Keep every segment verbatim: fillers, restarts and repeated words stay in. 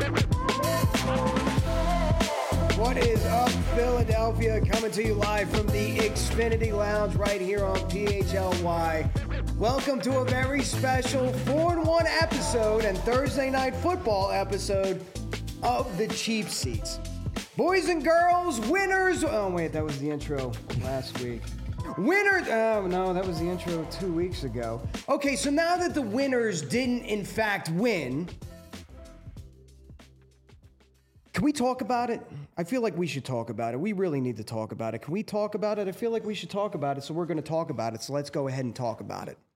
What is up, Philadelphia? Coming to you live from the Xfinity Lounge right here on P H L Y. Welcome to a very special four and one episode and Thursday Night Football episode of the Cheap Seats. Boys and girls, winners. Oh, wait, that was the intro last week. Winners. Oh, no, that was the intro two weeks ago. Okay, so now that the winners didn't, in fact, win, can we talk about it? I feel like we should talk about it. We really need to talk about it. Can we talk about it? I feel like we should talk about it, so we're going to talk about it. So let's go ahead and talk about it.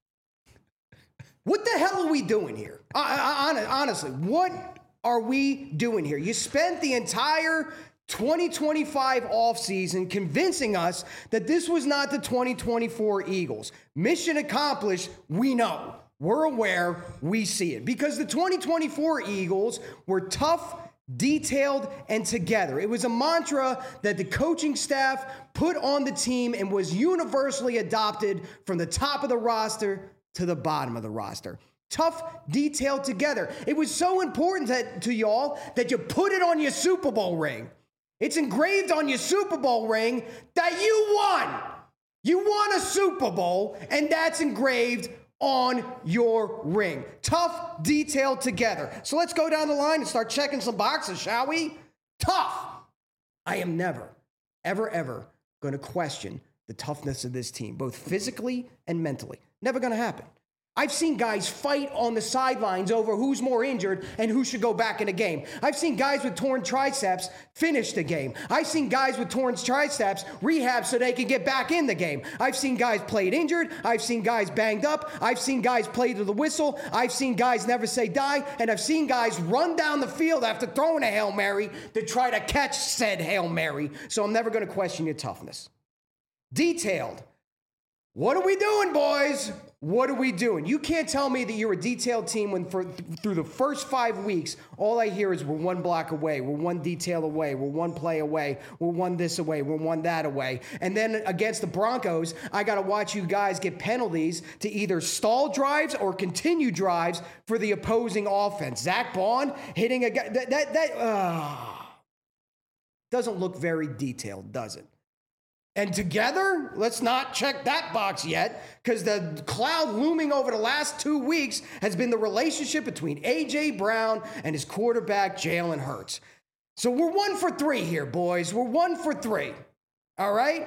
What the hell are we doing here? I, I, honestly, what are we doing here? You spent the entire twenty twenty-five offseason convincing us that this was not the twenty twenty-four Eagles. Mission accomplished, we know. We're aware, we see it. Because the twenty twenty-four Eagles were tough, detailed, and together. It was a mantra that the coaching staff put on the team and was universally adopted from the top of the roster to the bottom of the roster. Tough, detailed, together. It was so important to, to y'all that you put it on your Super Bowl ring. It's engraved on your Super Bowl ring that you won. You won a Super Bowl, and that's engraved on your ring. Tough, detailed, together. So let's go down the line and start checking some boxes, shall we? Tough. I am never, ever, ever going to question the toughness of this team, both physically and mentally. Never going to happen. I've seen guys fight on the sidelines over who's more injured and who should go back in the game. I've seen guys with torn triceps finish the game. I've seen guys with torn triceps rehab so they can get back in the game. I've seen guys played injured. I've seen guys banged up. I've seen guys play to the whistle. I've seen guys never say die. And I've seen guys run down the field after throwing a Hail Mary to try to catch said Hail Mary. So I'm never going to question your toughness. Detailed. What are we doing, boys? What are we doing? You can't tell me that you're a detailed team when for, through the first five weeks, all I hear is we're one block away, we're one detail away, we're one play away, we're one this away, we're one that away. And then against the Broncos, I got to watch you guys get penalties to either stall drives or continue drives for the opposing offense. Zach Bond hitting a guy, that, that, that uh, doesn't look very detailed, does it? And together, let's not check that box yet, because the cloud looming over the last two weeks has been the relationship between A J. Brown and his quarterback, Jalen Hurts. So we're one for three here, boys. We're one for three. All right?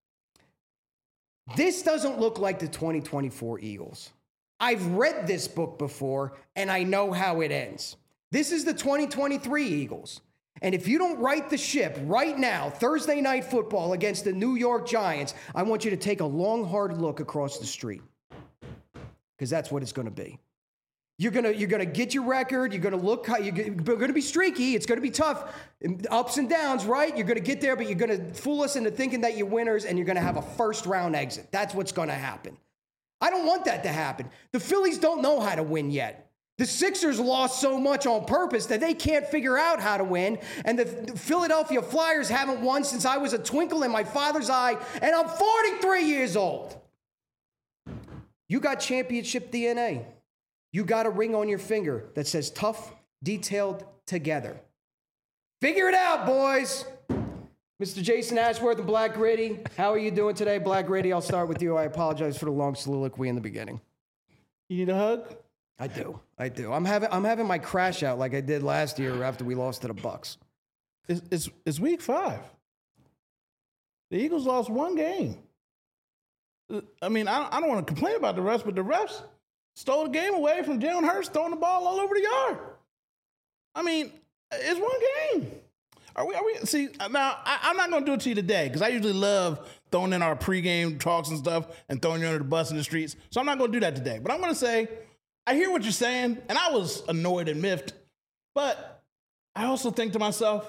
This doesn't look like the twenty twenty-four Eagles. I've read this book before, and I know how it ends. This is the twenty twenty-three Eagles. And if you don't right the ship right now, Thursday Night Football against the New York Giants, I want you to take a long, hard look across the street, because that's what it's going to be. You're going to you're going to get your record. You're going to look, you're going to be streaky. It's going to be tough. Ups and downs, right? You're going to get there, but you're going to fool us into thinking that you're winners, and you're going to have a first-round exit. That's what's going to happen. I don't want that to happen. The Phillies don't know how to win yet. The Sixers lost so much on purpose that they can't figure out how to win. And the Philadelphia Flyers haven't won since I was a twinkle in my father's eye, and I'm forty-three years old. You got championship D N A. You got a ring on your finger that says tough, detailed, together. Figure it out, boys. Mister Jason Ashworth and Black Gritty, how are you doing today? Black Gritty, I'll start with you. I apologize for the long soliloquy in the beginning. You need a hug? I do. I do. I'm having I'm having my crash out like I did last year after we lost to the Bucks. It's, it's, it's week five. The Eagles lost one game. I mean, I, I don't want to complain about the refs, but the refs stole the game away from Jalen Hurts throwing the ball all over the yard. I mean, it's one game. Are we? Are we? See, now I, I'm not going to do it to you today because I usually love throwing in our pregame talks and stuff and throwing you under the bus in the streets. So I'm not going to do that today. But I'm going to say, I hear what you're saying, and I was annoyed and miffed, but I also think to myself,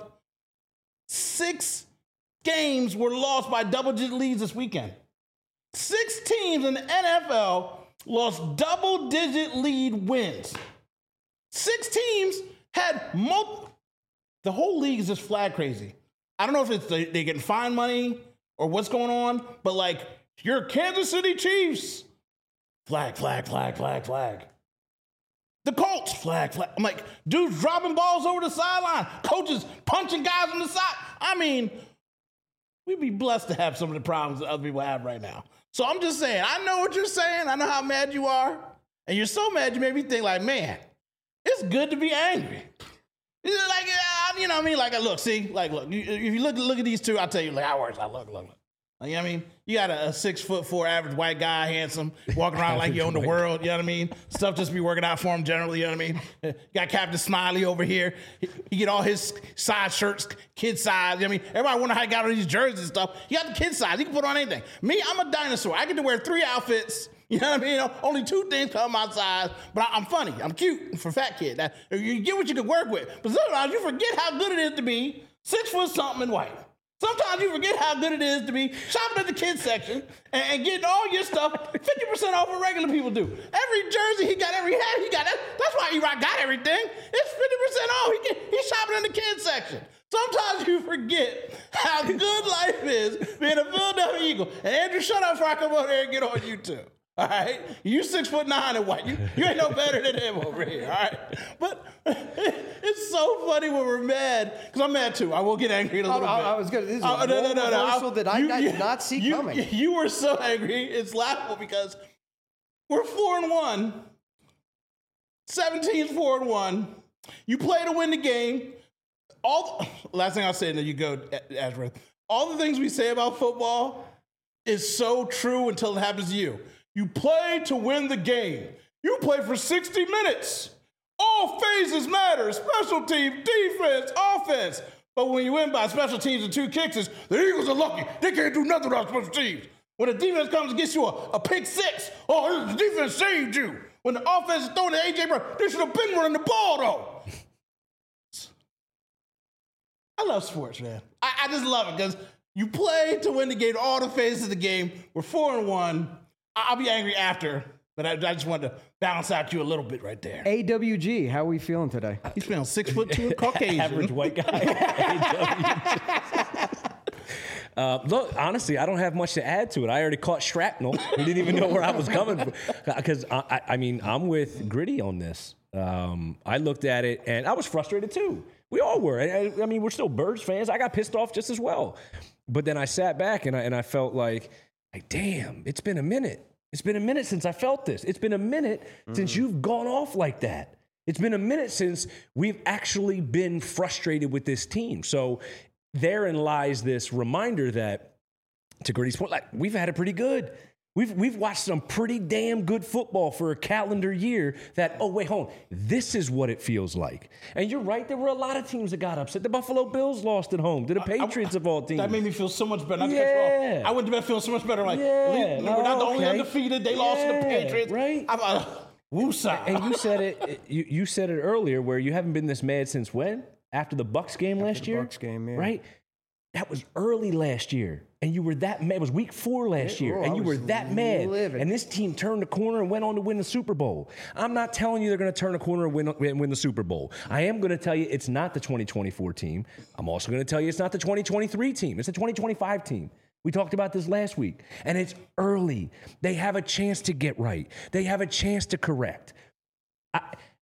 six games were lost by double-digit leads this weekend. Six teams in the N F L lost double-digit lead wins. Six teams had multiple. The whole league is just flag crazy. I don't know if it's they, they getting fine money or what's going on, but like, you're Kansas City Chiefs. Flag, flag, flag, flag, flag. The Colts, flag, flag. I'm like, dudes dropping balls over the sideline. Coaches punching guys on the side. I mean, we'd be blessed to have some of the problems that other people have right now. So I'm just saying, I know what you're saying. I know how mad you are. And you're so mad you made me think like, man, it's good to be angry. It's like, uh, you know what I mean? Like, look, see? Like, look, you, if you look, look at these two, I'll tell you like how worse I look, look, look. You know what I mean? You got a, a six foot four average white guy, handsome, walking around like you own the world. You know what I mean? Stuff just be working out for him generally. You know what I mean? You got Captain Smiley over here. He, he get all his size shirts, kid size. You know what I mean? Everybody wonder how he got all these jerseys and stuff. He got the kid size. He can put on anything. Me, I'm a dinosaur. I get to wear three outfits. You know what I mean? Only two things come my size, but I, I'm funny. I'm cute for a fat kid. That, you get what you can work with. But sometimes you forget how good it is to be six foot something and white. Sometimes you forget how good it is to be shopping at the kids section and, and getting all your stuff fifty percent off what regular people do. Every jersey he got, every hat he got. That, that's why E-Rock got everything. It's fifty percent off. He get, he's shopping in the kids section. Sometimes you forget how good life is being a Philadelphia Eagle. And Andrew, shut up before I come over here and get on you too. All right, you six foot nine and white. You, you ain't no better than him over here. All right, but it's so funny when we're mad because I'm mad too. I will get angry in a little I, bit. I was gonna. This is a uh, no, no, no, no. reversal that I, you, I you, did not see you, coming. You were so angry. It's laughable because we're four and one. seventeen's four and one. You play to win the game. All the, last thing I'll say, and then you go, Ashworth. All the things we say about football is so true until it happens to you. You play to win the game. You play for sixty minutes. All phases matter. Special team, defense, offense. But when you win by special teams and two kicks, the Eagles are lucky. They can't do nothing without special teams. When the defense comes and gets you a, a pick six, oh, the defense saved you. When the offense is throwing to A J Brown, they should have been running the ball, though. I love sports, man. I, I just love it because you play to win the game, all the phases of the game. We're four and one. I'll be angry after, but I, I just wanted to balance out you a little bit right there. A W G, how are we feeling today? He's feeling six foot two, Caucasian. Average white guy. uh, look, honestly, I don't have much to add to it. I already caught shrapnel. We didn't even know where I was coming from. Because, I, I, I mean, I'm with Gritty on this. Um, I looked at it, and I was frustrated, too. We all were. I, I mean, we're still Birds fans. I got pissed off just as well. But then I sat back, and I, and I felt like, Like, damn, it's been a minute. It's been a minute since I felt this. It's been a minute mm. since you've gone off like that. It's been a minute since we've actually been frustrated with this team. So therein lies this reminder that, to Gritty's point, like, we've had it pretty good. We've we've watched some pretty damn good football for a calendar year that, oh, wait, hold on. This is what it feels like. And you're right, there were a lot of teams that got upset. The Buffalo Bills lost at home to the Patriots I, I, of all teams. That made me feel so much better. Not yeah. to cut you off. I went to bed feeling so much better. Like, yeah. we're not the oh, only okay. undefeated. They yeah. lost to the Patriots. Right. I'm, uh, woosah. And you said it you, you said it earlier where you haven't been this mad since when? After the Bucs game After last the year? Bucs game, yeah. Right? That was early last year. And you were that mad. It was week four last yeah, year. oh, and I you were that mad. Living. And this team turned the corner and went on to win the Super Bowl. I'm not telling you they're going to turn the corner and win, win, win the Super Bowl. I am going to tell you it's not the twenty twenty-four team. I'm also going to tell you it's not the twenty twenty-three team. It's the twenty twenty-five team. We talked about this last week. And it's early. They have a chance to get right. They have a chance to correct. I...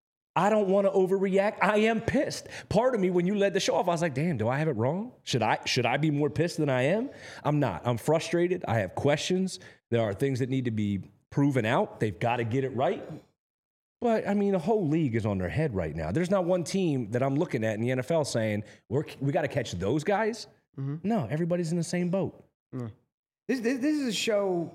I don't want to overreact. I am pissed. Part of me, when you led the show off, I was like, damn, do I have it wrong? Should I should I be more pissed than I am? I'm not. I'm frustrated. I have questions. There are things that need to be proven out. They've got to get it right. But, I mean, the whole league is on their head right now. There's not one team that I'm looking at in the N F L saying, We're, we got to catch those guys. Mm-hmm. No, everybody's in the same boat. Mm. This, this, this is a show...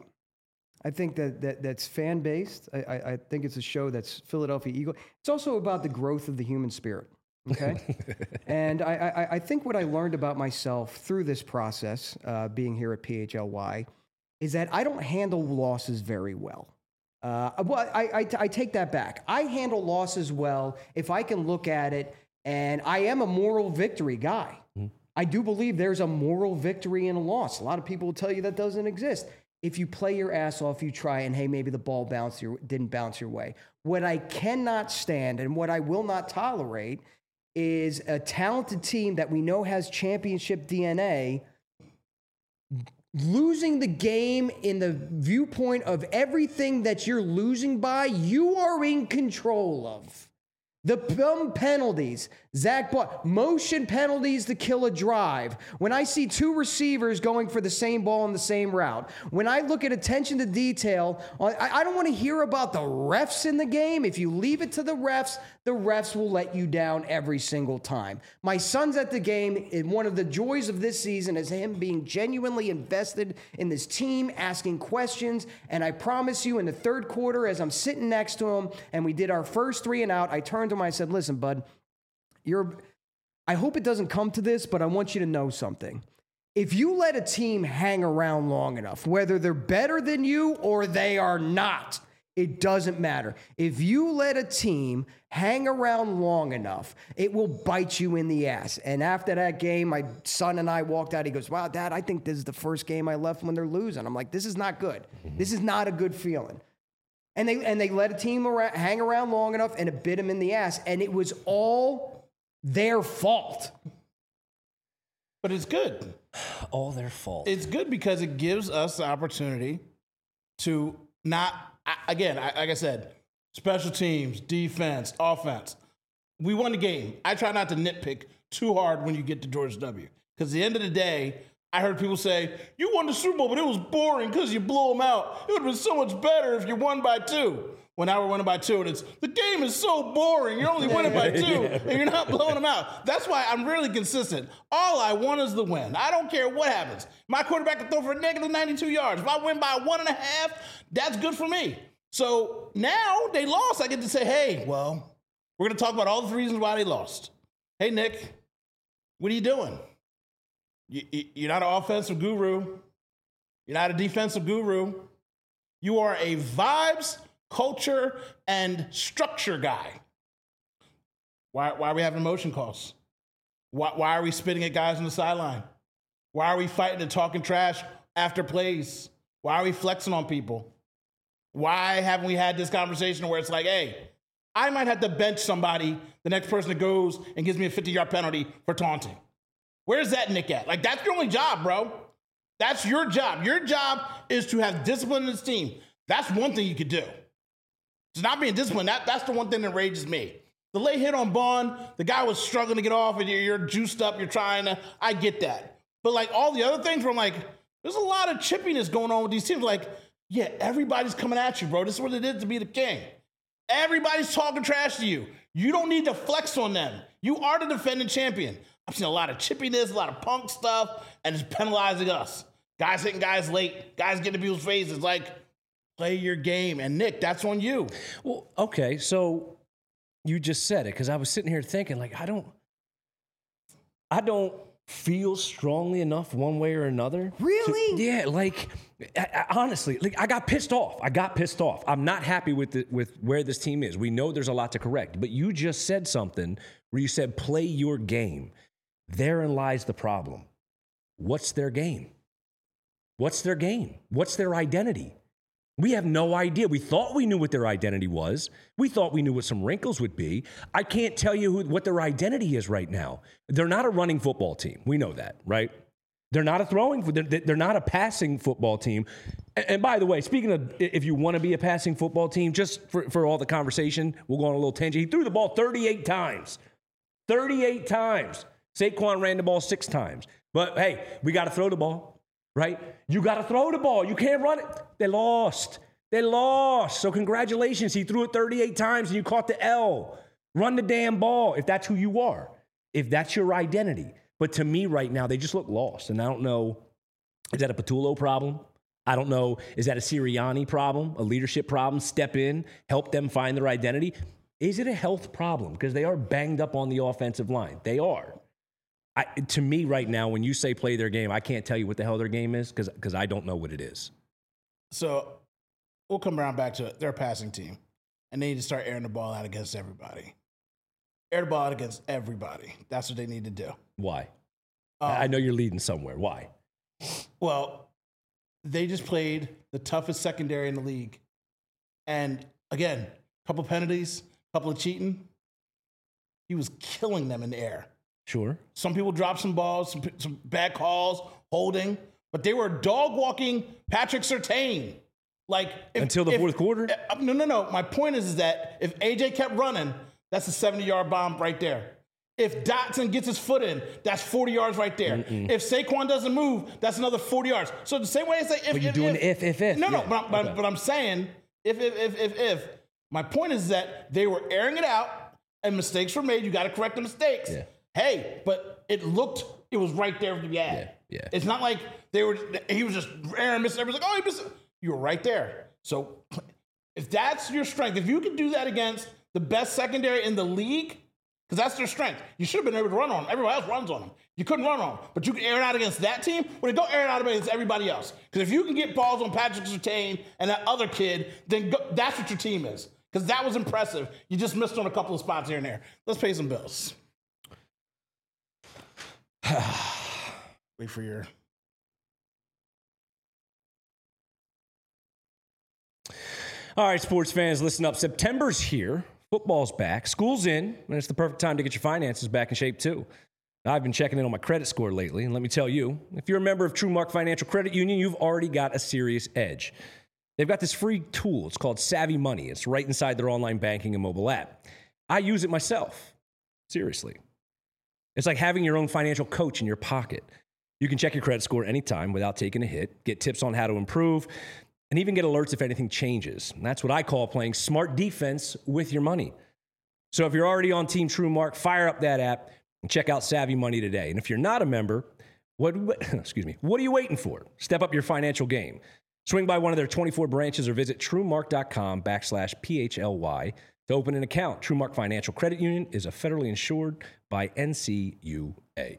I think that, that that's fan-based. I, I, I think it's a show that's Philadelphia Eagle. It's also about the growth of the human spirit, okay? And I, I, I think what I learned about myself through this process, uh, being here at P H L Y, is that I don't handle losses very well. Uh, well, I, I, I take that back. I handle losses well if I can look at it, and I am a moral victory guy. Mm-hmm. I do believe there's a moral victory in a loss. A lot of people will tell you that doesn't exist. If you play your ass off, you try, and hey, maybe the ball bounced your, didn't bounce your way. What I cannot stand and what I will not tolerate is a talented team that we know has championship D N A losing the game in the viewpoint of everything that you're losing by, you are in control of. The dumb penalties, Zach Blunt, motion penalties to kill a drive. When I see two receivers going for the same ball on the same route, when I look at attention to detail, I, I don't want to hear about the refs in the game. If you leave it to the refs, the refs will let you down every single time. My son's at the game, and one of the joys of this season is him being genuinely invested in this team, asking questions, and I promise you in the third quarter, as I'm sitting next to him, and we did our first three and out, I turned to him, I said, listen, bud, You're, I hope it doesn't come to this, but I want you to know something. If you let a team hang around long enough, whether they're better than you or they are not, it doesn't matter. If you let a team hang around long enough, it will bite you in the ass. And after that game, my son and I walked out. He goes, wow, Dad, I think this is the first game I left when they're losing. I'm like, this is not good. This is not a good feeling. And they and they let a team around, hang around long enough, and it bit them in the ass. And it was all their fault. But it's good. All their fault. It's good because it gives us the opportunity to not, again, like I said, special teams, defense, offense. We won the game. I try not to nitpick too hard when you get to George W. Because at the end of the day, I heard people say, you won the Super Bowl, but it was boring because you blew them out. It would have been so much better if you won by two. Well, now we're winning by two, and it's, the game is so boring. You're only winning by two, yeah. and you're not blowing them out. That's why I'm really consistent. All I want is the win. I don't care what happens. My quarterback can throw for negative ninety-two yards. If I win by one and a half, that's good for me. So now they lost. I get to say, hey, well, we're going to talk about all the reasons why they lost. Hey, Nick, what are you doing? You're not an offensive guru. You're not a defensive guru. You are a vibes, culture, and structure guy. Why, why are we having motion calls? Why, why are we spitting at guys on the sideline? Why are we fighting and talking trash after plays? Why are we flexing on people? Why haven't we had this conversation where it's like, hey, I might have to bench somebody, the next person that goes and gives me a fifty-yard penalty for taunting? Where's that Nick at? Like, that's your only job, bro. That's your job. Your job is to have discipline in this team. That's one thing you could do. It's not being disciplined. That, that's the one thing that enrages me. The late hit on Bond, the guy was struggling to get off, and you're, you're juiced up, you're trying to, I get that. But, like, all the other things where I'm like, there's a lot of chippiness going on with these teams. Like, yeah, everybody's coming at you, bro. This is what it is to be the king. Everybody's talking trash to you. You don't need to flex on them. You are the defending champion. I've seen a lot of chippiness, a lot of punk stuff, and it's penalizing us. Guys hitting guys late, guys getting in people's faces. Like, play your game. And, Nick, that's on you. Well, okay, so you just said it, because I was sitting here thinking, like, I don't, I don't feel strongly enough one way or another. Really? To, yeah, like, I, I, honestly, like, I got pissed off. I got pissed off. I'm not happy with the, with where this team is. We know there's a lot to correct. But you just said something where you said, play your game. Therein lies the problem. What's their game? What's their game? What's their identity? We have no idea. We thought we knew what their identity was. We thought we knew what some wrinkles would be. I can't tell you who, what their identity is right now. They're not a running football team. We know that, right? They're not a throwing, they're, they're not a passing football team. And, and by the way, speaking of, if you want to be a passing football team, just for, for all the conversation, we'll go on a little tangent. He threw the ball thirty-eight times. thirty-eight times. Saquon ran the ball six times. But, hey, we got to throw the ball, right? You got to throw the ball. You can't run it. They lost. They lost. So congratulations. He threw it thirty-eight times and you caught the L. Run the damn ball if that's who you are, if that's your identity. But to me right now, they just look lost. And I don't know, is that a Patullo problem? I don't know, is that a Sirianni problem, a leadership problem? Step in, help them find their identity. Is it a health problem? Because they are banged up on the offensive line. They are. I, to me right now, when you say play their game, I can't tell you what the hell their game is because because I don't know what it is. So we'll come around back to it. They're a passing team, and they need to start airing the ball out against everybody. Air the ball out against everybody. That's what they need to do. Why? Um, I know you're leading somewhere. Why? Well, they just played the toughest secondary in the league. And, again, a couple penalties, a couple of cheating. He was killing them in the air. Sure. Some people dropped some balls, some, some bad calls, holding. but they were dog walking Patrick Surtain. Like if, Until the if, fourth quarter? Uh, no, no, no. My point is, is that if A J kept running, that's a seventy-yard bomb right there. If Dotson gets his foot in, that's forty yards right there. Mm-mm. If Saquon doesn't move, that's another forty yards. So the same way I say if, but you're if, doing if, if, if, if. No, no, yeah. but, but, okay. but I'm saying if, if, if, if, if. My point is that they were airing it out and mistakes were made. You got to correct the mistakes. Yeah. Hey, but it looked, it was right there to be had. Yeah, yeah. It's not like they were, he was just airing, missing. Everyone's like, oh, he missed it. You were right there. So if that's your strength, if you can do that against the best secondary in the league, because that's their strength. You should have been able to run on them. Everybody else runs on them. You couldn't run on them. But you can air it out against that team. Well, then go air it out against everybody else. Because if you can get balls on Patrick Surtain and that other kid, then go, that's what your team is. Because that was impressive. You just missed on a couple of spots here and there. Let's pay some bills. Wait for your... All right, sports fans, listen up. September's here. Football's back. School's in, and it's the perfect time to get your finances back in shape, too. I've been checking in on my credit score lately, and let me tell you, if you're a member of TrueMark Financial Credit Union, you've already got a serious edge. They've got this free tool. It's called Savvy Money. It's right inside their online banking and mobile app. I use it myself. Seriously. It's like having your own financial coach in your pocket. You can check your credit score anytime without taking a hit, get tips on how to improve, and even get alerts if anything changes. And that's what I call playing smart defense with your money. So if you're already on Team TrueMark, fire up that app and check out Savvy Money today. And if you're not a member, what, excuse me, what are you waiting for? Step up your financial game. Swing by one of their twenty-four branches or visit TrueMark.com backslash PHLY to open an account. TrueMark Financial Credit Union is a federally insured by N C U A.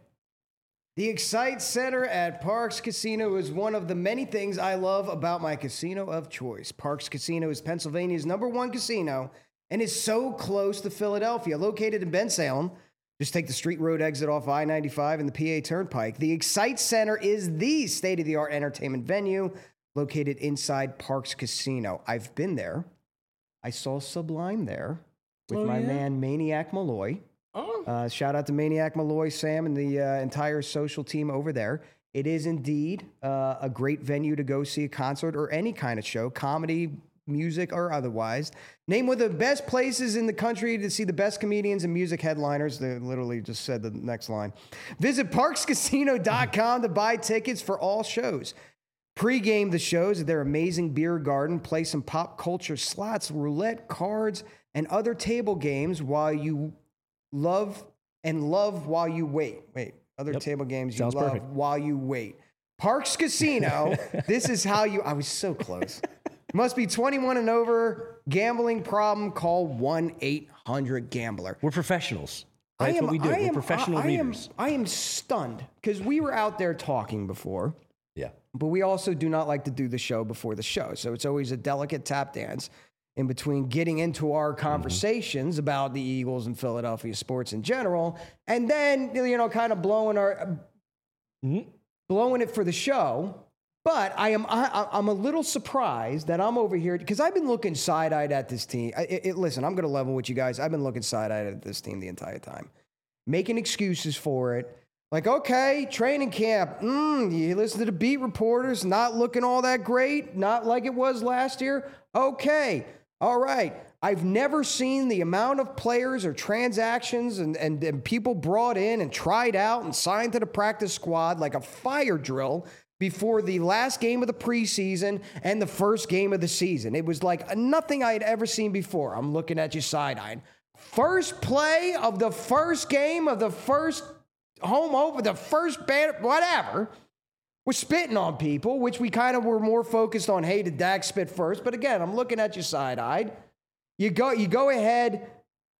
The Excite Center at Parx Casino is one of the many things I love about my casino of choice. Parx Casino is Pennsylvania's number one casino and is so close to Philadelphia. Located in Bensalem, just take the Street Road exit off I ninety-five and the P A Turnpike. The Excite Center is the state-of-the-art entertainment venue located inside Parx Casino. I've been there. I saw Sublime there with oh, my yeah? man Maniac Malloy. Oh. Uh, shout out to Maniac Malloy, Sam, and the uh, entire social team over there. It is indeed uh, a great venue to go see a concert or any kind of show, comedy, music, or otherwise. Named one of the best places in the country to see the best comedians and music headliners. They literally just said the next line. Visit parx casino dot com to buy tickets for all shows. Pre-game the shows at their amazing beer garden. Play some pop culture slots, roulette, cards, and other table games while you love and love while you wait. Wait, other Yep. table games you Sounds love perfect. while you wait. Parx Casino, this is how you, I was so close. Must be twenty-one and over. Gambling problem, call one eight hundred gambler. We're professionals. I That's am, what we do. I We're am, professional I, I am, readers. I am stunned because we were out there talking before. Yeah. But we also do not like to do the show before the show. So it's always a delicate tap dance in between getting into our conversations mm-hmm. about the Eagles and Philadelphia sports in general, and then, you know, kind of blowing our mm-hmm. blowing it for the show. But I am I, I'm a little surprised that I'm over here because I've been looking side-eyed at this team. I, it, it, listen, I'm going to level with you guys. I've been looking side-eyed at this team the entire time, making excuses for it. Like, okay, training camp, mm, you listen to the beat reporters, not looking all that great, not like it was last year. Okay, all right. I've never seen the amount of players or transactions and, and, and people brought in and tried out and signed to the practice squad like a fire drill before the last game of the preseason and the first game of the season. It was like nothing I had ever seen before. I'm looking at you side-eyed. First play of the first game of the first home over, the first band, whatever, we're spitting on people, which we kind of were more focused on, hey, did Dak spit first? But again, I'm looking at you side-eyed. You go, you go ahead,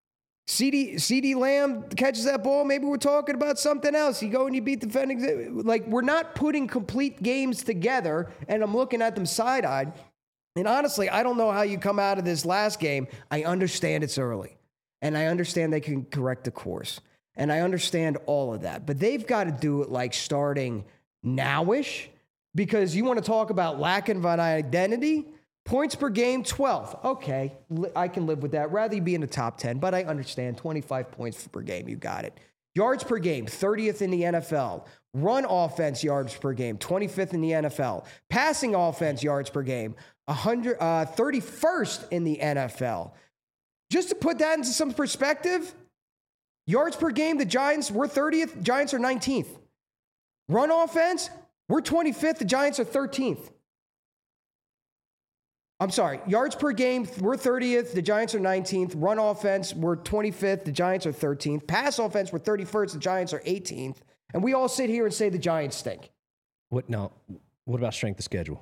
CeeDee, CeeDee Lamb catches that ball, maybe we're talking about something else. You go and you beat defending, like we're not putting complete games together, and I'm looking at them side-eyed. And honestly, I don't know how you come out of this last game. I understand it's early, and I understand they can correct the course. And I understand all of that. But they've got to do it like starting now-ish because you want to talk about lack of an identity. Points per game, twelfth. Okay, I can live with that. Rather you be in the top ten, but I understand twenty-five points per game. You got it. Yards per game, thirtieth in the N F L. Run offense yards per game, twenty-fifth in the N F L. Passing offense yards per game, one hundred, uh, thirty-first in the N F L. Just to put that into some perspective, yards per game, the Giants, we're thirtieth, Giants are nineteenth. Run offense, we're twenty-fifth, the Giants are thirteenth. I'm sorry, yards per game, we're thirtieth, the Giants are nineteenth. Run offense, we're twenty-fifth, the Giants are thirteenth. Pass offense, we're thirty-first, the Giants are eighteenth. And we all sit here and say the Giants stink. What now? What about strength of schedule?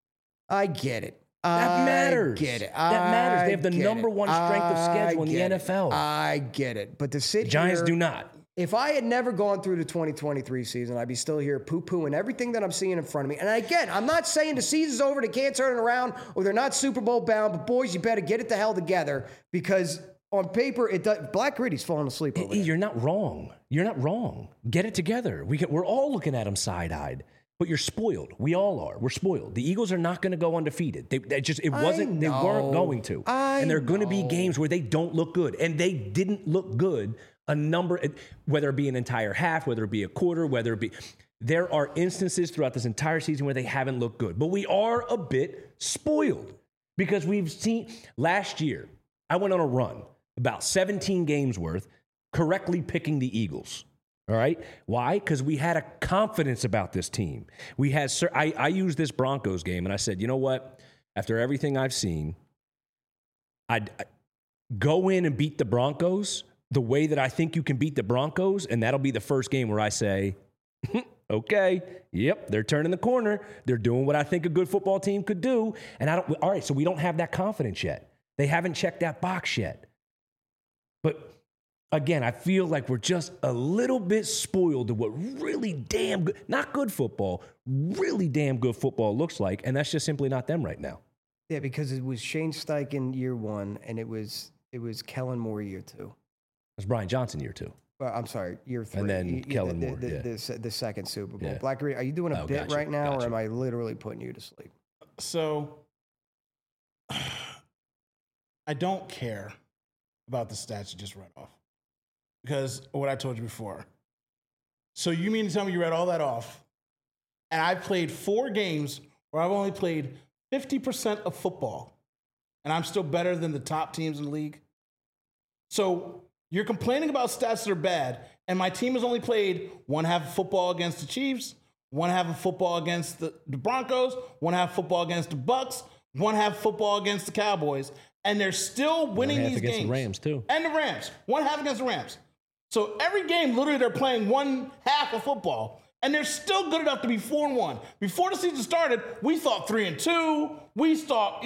I get it. That I matters. get it. That matters. They have the I get number it. one strength of schedule I in the get N F L. it. I get it. But to sit The Giants here, do not. If I had never gone through the twenty twenty-three season, I'd be still here poo-pooing everything that I'm seeing in front of me. And again, I'm not saying the season's over, they can't turn it around, or they're not Super Bowl bound, but boys, you better get it the hell together because on paper, it does, Black Gritty's falling asleep over there. You're not wrong. You're not wrong. Get it together. We can, we're all looking at them side-eyed. But you're spoiled. We all are. We're spoiled. The Eagles are not going to go undefeated. They, they just it wasn't. They weren't going to. I and there are going to be know. games where they don't look good, and they didn't look good. A number, whether it be an entire half, whether it be a quarter, whether it be, there are instances throughout this entire season where they haven't looked good. But we are a bit spoiled because we've seen last year. I went on a run about seventeen games worth, correctly picking the Eagles. All right. Why? Because we had a confidence about this team. We had, I, I used this Broncos game and I said, you know what? After everything I've seen, I'd, I'd go in and beat the Broncos the way that I think you can beat the Broncos. And that'll be the first game where I say, okay, yep, they're turning the corner. They're doing what I think a good football team could do. And I don't, all right, so we don't have that confidence yet. They haven't checked that box yet. But again, I feel like we're just a little bit spoiled to what really damn good, not good football, really damn good football looks like. And that's just simply not them right now. Yeah, because it was Shane Steichen year one, and it was it was Kellen Moore year two. It was Brian Johnson year two. Uh, I'm sorry, year three. And then Y- y- Kellen the, Moore, The, yeah. the, the second Super Bowl. Yeah. Black Gritty, are you doing a Oh, bit gotcha, right now, gotcha. or am I literally putting you to sleep? So I don't care about the stats you just read off because of what I told you before. So you mean to tell me you read all that off and I've played four games where I've only played fifty percent of football and I'm still better than the top teams in the league? So you're complaining about stats that are bad, and my team has only played one half of football against the Chiefs, one half of football against the, the Broncos, one half of football against the Bucks, one half of football against the Cowboys, and they're still winning half these against games. the Rams, too. And the Rams. One half against the Rams. So every game, literally, they're playing one half of football, and they're still good enough to be four and one. Before the season started, we thought three and two. We thought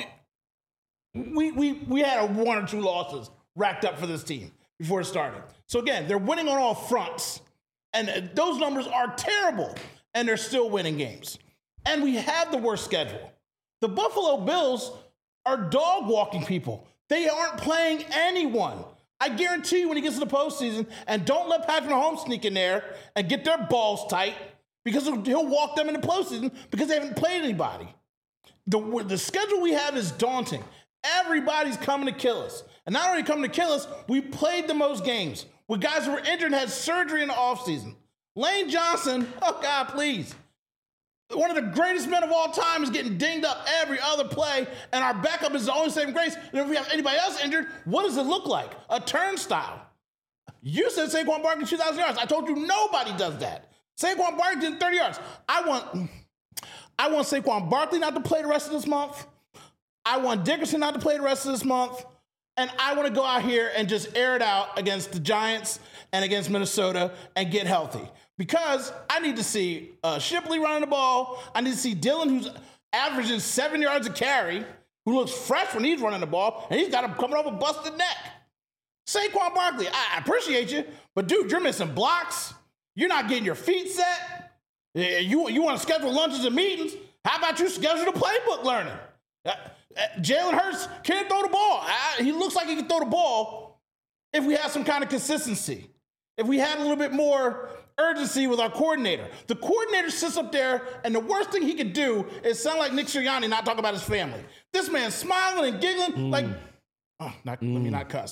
we we we had a one or two losses racked up for this team before it started. So again, they're winning on all fronts, and those numbers are terrible, and they're still winning games. And we have the worst schedule. The Buffalo Bills are dog walking people. They aren't playing anyone. I guarantee you when he gets to the postseason, and don't let Patrick Mahomes sneak in there and get their balls tight, because he'll walk them in the postseason because they haven't played anybody. The, the schedule we have is daunting. Everybody's coming to kill us. And not only coming to kill us, we played the most games with guys who were injured and had surgery in the offseason. Lane Johnson, oh God, please. One of the greatest men of all time is getting dinged up every other play, and our backup is the only saving grace. And if we have anybody else injured, what does it look like? A turnstile. You said Saquon Barkley two thousand yards. I told you nobody does that. Saquon Barkley did thirty yards. I want, I want Saquon Barkley not to play the rest of this month. I want Dickerson not to play the rest of this month. And I want to go out here and just air it out against the Giants and against Minnesota and get healthy. Because I need to see uh, Shipley running the ball. I need to see Dylan, who's averaging seven yards a carry, who looks fresh when he's running the ball, and he's got him coming off a busted neck. Saquon Barkley, I appreciate you, but dude, you're missing blocks. You're not getting your feet set. You, you want to schedule lunches and meetings? How about you schedule the playbook learning? Uh, uh, Jalen Hurts can't throw the ball. Uh, he looks like he can throw the ball if we have some kind of consistency. If we had a little bit more urgency with our coordinator. The coordinator sits up there, and the worst thing he could do is sound like Nick Sirianni, not talk about his family. This man's smiling and giggling mm. like, oh, not, mm. let me not cuss.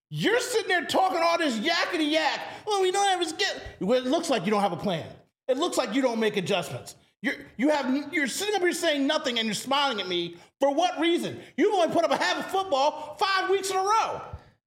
You're sitting there talking all this yakety yak. Well, we don't have a skill. Well, it looks like you don't have a plan. It looks like you don't make adjustments. You're you have you're sitting up here saying nothing and you're smiling at me. For what reason? You've only put up a half of football five weeks in a row.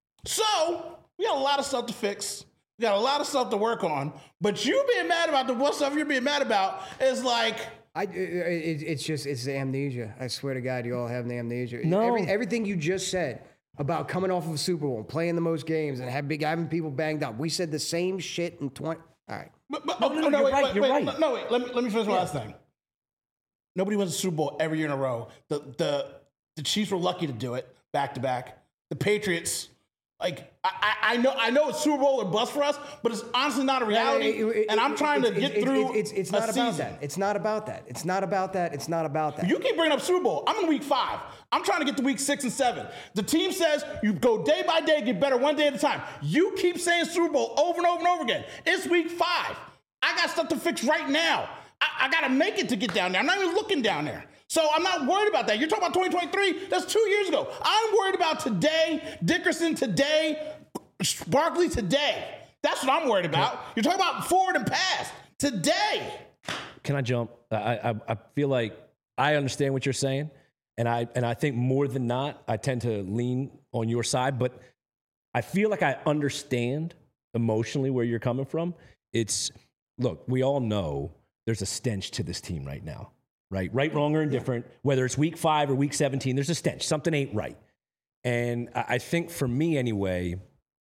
So we got a lot of stuff to fix. We got a lot of stuff to work on. But you being mad about the what stuff you're being mad about is like. I, it, it's just, it's the amnesia. I swear to God, you all have the amnesia. No. Every, everything you just said about coming off of a Super Bowl, playing the most games, and have big, having people banged up. We said the same shit in twenty. All right. But, but, No, oh, no, no, no, you're wait, right, wait, you're wait, right. No, wait. Let me let me finish my last thing. Nobody wins a Super Bowl every year in a row. The the the Chiefs were lucky to do it back to back. The Patriots, like I, I I know I know it's Super Bowl or bust for us, but it's honestly not a reality. It- it- and I'm it- trying it- to get it- through. It, it's it's a not about season. that. It's not about that. It's not about that. It's not about that. You keep bringing up Super Bowl. I'm in week five. I'm trying to get to week six and seven. The team says you go day by day, get better one day at a time. You keep saying Super Bowl over and over and over again. It's week five. I got stuff to fix right now. I, I got to make it to get down there. I'm not even looking down there. So I'm not worried about that. You're talking about twenty twenty-three? That's two years ago. I'm worried about today, Dickerson today, Barkley today. That's what I'm worried about. You're talking about forward and past today. Can I jump? I, I I feel like I understand what you're saying, and I and I think more than not, I tend to lean on your side. But I feel like I understand emotionally where you're coming from. It's look, we all know there's a stench to this team right now, right? Right, wrong, or indifferent. Whether it's week five or week seventeen, there's a stench. Something ain't right. And I, I think for me anyway,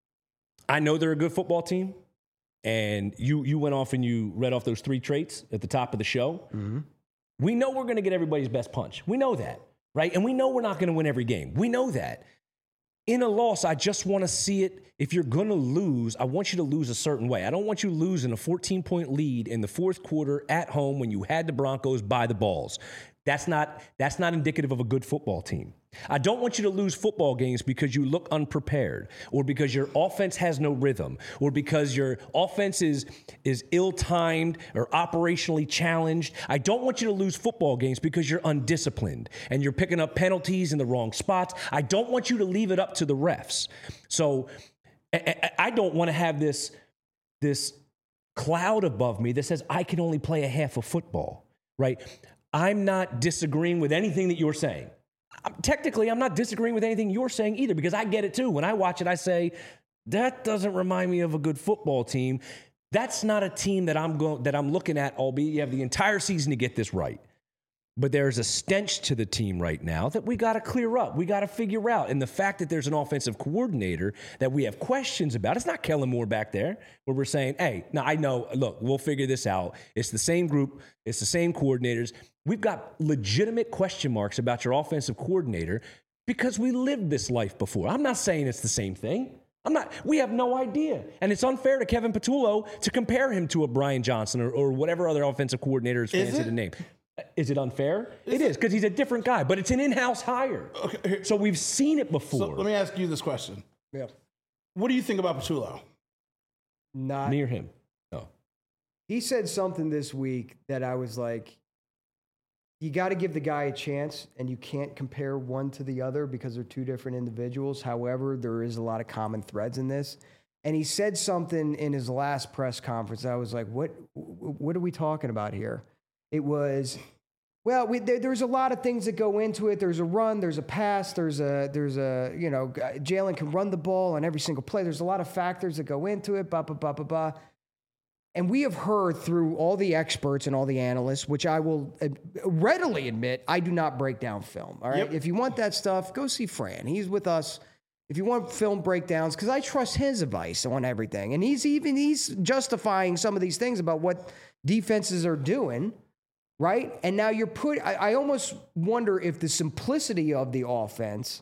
I know they're a good football team. And you you went off and you read off those three traits at the top of the show. Mm-hmm. We know we're going to get everybody's best punch. We know that, right? And we know we're not going to win every game. We know that. In a loss, I just want to see it. If you're going to lose, I want you to lose a certain way. I don't want you losing a fourteen-point lead in the fourth quarter at home when you had the Broncos by the balls. That's not, that's not indicative of a good football team. I don't want you to lose football games because you look unprepared or because your offense has no rhythm or because your offense is, is ill-timed or operationally challenged. I don't want you to lose football games because you're undisciplined and you're picking up penalties in the wrong spots. I don't want you to leave it up to the refs. So I, I don't want to have this, this cloud above me that says I can only play a half of football, right? I'm not disagreeing with anything that you're saying. Technically, I'm not disagreeing with anything you're saying either because I get it too. When I watch it, I say, that doesn't remind me of a good football team. That's not a team that I'm going that I'm looking at, albeit you have the entire season to get this right. But there's a stench to the team right now that we got to clear up. We got to figure out. And the fact that there's an offensive coordinator that we have questions about, it's not Kellen Moore back there where we're saying, hey, no, I know, look, we'll figure this out. It's the same group. It's the same coordinators. We've got legitimate question marks about your offensive coordinator because we lived this life before. I'm not saying it's the same thing. I'm not, we have no idea. And it's unfair to Kevin Patullo to compare him to a Brian Johnson or, or whatever other offensive coordinator is fancy to name. Is it unfair? Is it is, because he's a different guy, but it's an in-house hire. Okay. So we've seen it before. So let me ask you this question. Yeah. What do you think about Patullo? Not near him. No. He said something this week that I was like, you got to give the guy a chance, and you can't compare one to the other because they're two different individuals. However, there is a lot of common threads in this. And he said something in his last press conference. I was like, what, what are we talking about here? It was, well, we, there, there's a lot of things that go into it. There's a run, there's a pass, there's a, there's a, you know, Jalen can run the ball on every single play. There's a lot of factors that go into it, blah, blah, blah, blah, blah. And we have heard through all the experts and all the analysts, which I will readily admit, I do not break down film. All right. Yep. If you want that stuff, go see Fran. He's with us. If you want film breakdowns, because I trust his advice on everything. And he's even, he's justifying some of these things about what defenses are doing. Right? And now you're put, I, I almost wonder if the simplicity of the offense,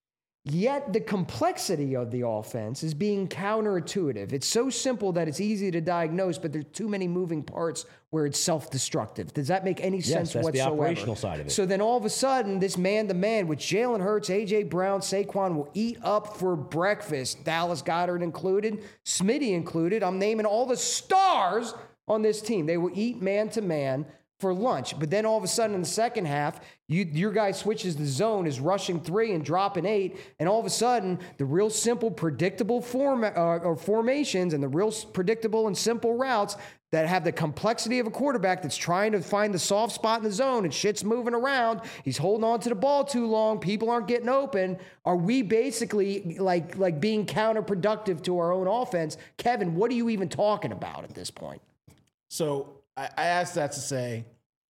yet the complexity of the offense is being counterintuitive. It's so simple that it's easy to diagnose, but there's too many moving parts where it's self-destructive. Does that make any yes, sense that's whatsoever? The operational side of it. So then all of a sudden, this man-to-man with Jalen Hurts, A J Brown, Saquon will eat up for breakfast, Dallas Goedert included, Smitty included. I'm naming all the stars on this team. They will eat man-to-man for lunch. But then all of a sudden in the second half, you, your guy switches the zone, is rushing three and dropping eight, and all of a sudden the real simple, predictable form uh, or formations and the real predictable and simple routes that have the complexity of a quarterback that's trying to find the soft spot in the zone and shit's moving around. He's holding on to the ball too long. People aren't getting open. Are we basically like like being counterproductive to our own offense? Kevin, what are you even talking about at this point? So I, I asked that to say,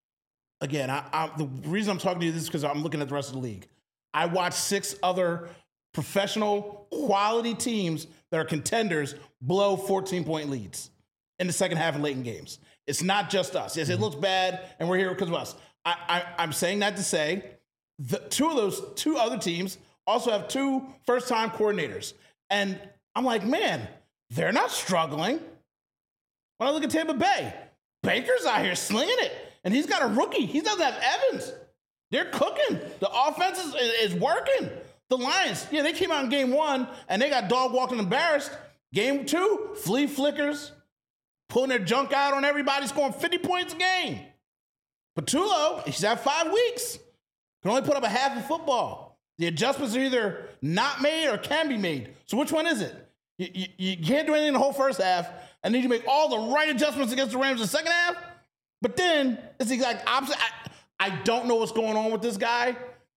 again, I, I, the reason I'm talking to you this is because I'm looking at the rest of the league. I watched six other professional quality teams that are contenders blow fourteen-point leads in the second half and late in games. It's not just us. Yes, it looks bad, and we're here because of us. I, I, I'm saying that to say the two of those two other teams also have two first-time coordinators. And I'm like, man, they're not struggling. When I look at Tampa Bay, Baker's out here slinging it, and he's got a rookie. He doesn't have Evans. They're cooking. The offense is, is working. The Lions, yeah, they came out in game one, and they got dog walking embarrassed. Game two, flea flickers, pulling their junk out on everybody, scoring fifty points a game. Patullo, he's had five weeks. Can only put up a half of football. The adjustments are either not made or can be made. So which one is it? You, you, you can't do anything in the whole first half, and then you make all the right adjustments against the Rams in the second half. But then it's the exact opposite. I, I don't know what's going on with this guy,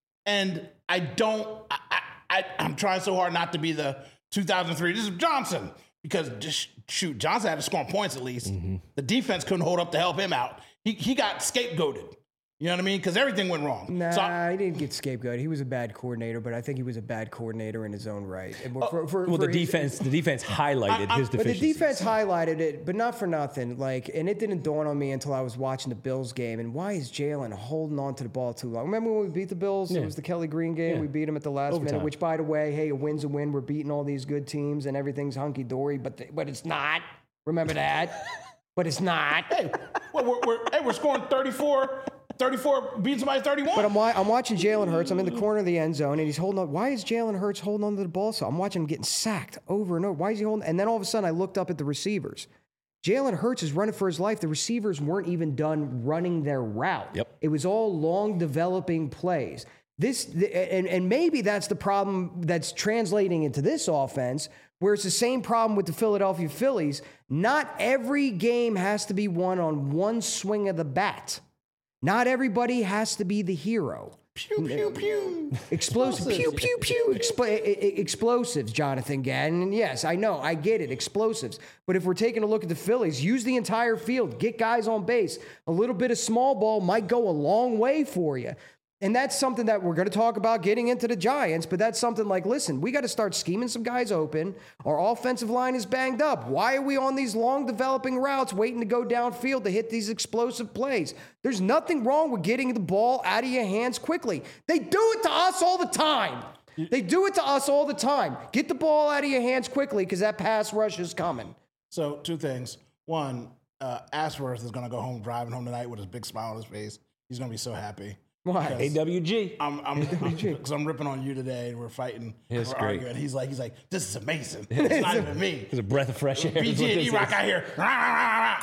and I don't. I, I, I, I'm trying so hard not to be the two thousand three. This is Johnson. Because, just, shoot, Johnson had to score points at least. Mm-hmm. The defense couldn't hold up to help him out. He he got scapegoated. You know what I mean? Because everything went wrong. Nah, so I, he didn't get scapegoated. He was a bad coordinator, but I think he was a bad coordinator in his own right. Uh, for, for, well, for the his, defense, the defense highlighted I, I, his deficiencies. But the defense highlighted it, but not for nothing. Like, and it didn't dawn on me until I was watching the Bills game. And why is Jalen holding on to the ball too long? Remember when we beat the Bills? Yeah. It was the Kelly Green game. Yeah. We beat them at the last Overtime. minute. Which, by the way, hey, a win's a win. We're beating all these good teams, and everything's hunky dory. But the, but it's not. Remember that. But it's not. Hey, well, we're, we're hey, we're scoring thirty-four. thirty-four beating somebody thirty-one. But I'm, I'm watching Jalen Hurts. I'm in the corner of the end zone, and he's holding on. Why is Jalen Hurts holding on to the ball? So I'm watching him getting sacked over and over. Why is he holding? And then all of a sudden, I looked up at the receivers. Jalen Hurts is running for his life. The receivers weren't even done running their route. Yep. It was all long developing plays. This and, and maybe that's the problem that's translating into this offense, where it's the same problem with the Philadelphia Phillies. Not every game has to be won on one swing of the bat. Not everybody has to be the hero. Pew, pew, pew. Explosive. Pew, pew, pew. Expl- explosives, Jonathan Gadden. And yes, I know. I get it. Explosives. But if we're taking a look at the Phillies, use the entire field. Get guys on base. A little bit of small ball might go a long way for you. And that's something that we're going to talk about getting into the Giants, but that's something like, listen, we got to start scheming some guys open. Our offensive line is banged up. Why are we on these long developing routes waiting to go downfield to hit these explosive plays? There's nothing wrong with getting the ball out of your hands quickly. They do it to us all the time. They do it to us all the time. Get the ball out of your hands quickly because that pass rush is coming. So two things. One, uh, Ashworth is going to go home driving home tonight with his big smile on his face. He's going to be so happy. Why? A W G. I'm I'm because I'm, I'm ripping on you today, and we're fighting. It's we're great. arguing. He's like, he's like, this is amazing. It's not even me. It's a breath of fresh air. B G and E-Rock out here. I,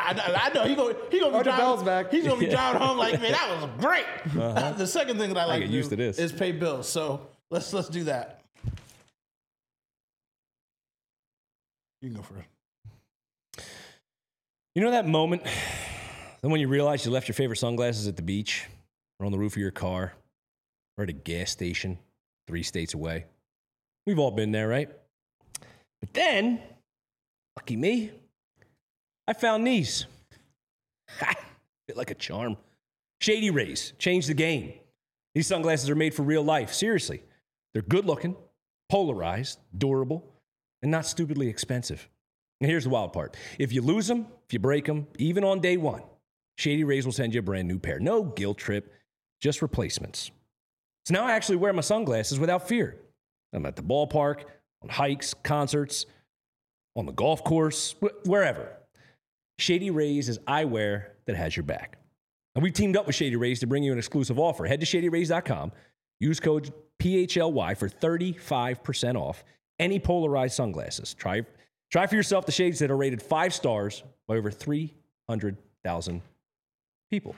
I know he go he gonna be driving. Back. He's gonna be driving home like, man, that was great. Uh-huh. The second thing that I like I get to used do to this. is pay bills. So let's let's do that. You can go for it. You know that moment, then when you realize you left your favorite sunglasses at the beach, or on the roof of your car, or at a gas station three states away? We've all been there, right? But then, lucky me, I found these. Ha! Bit like a charm. Shady Rays changed the game. These sunglasses are made for real life. Seriously. They're good looking, polarized, durable, and not stupidly expensive. And here's the wild part. If you lose them, if you break them, even on day one, Shady Rays will send you a brand new pair. No guilt trip. Just replacements. So now I actually wear my sunglasses without fear. I'm at the ballpark, on hikes, concerts, on the golf course, wh- wherever. Shady Rays is eyewear that has your back. And we teamed up with Shady Rays to bring you an exclusive offer. Head to shady rays dot com, use code P H L Y for thirty-five percent off any polarized sunglasses. Try, try for yourself the shades that are rated five stars by over three hundred thousand people.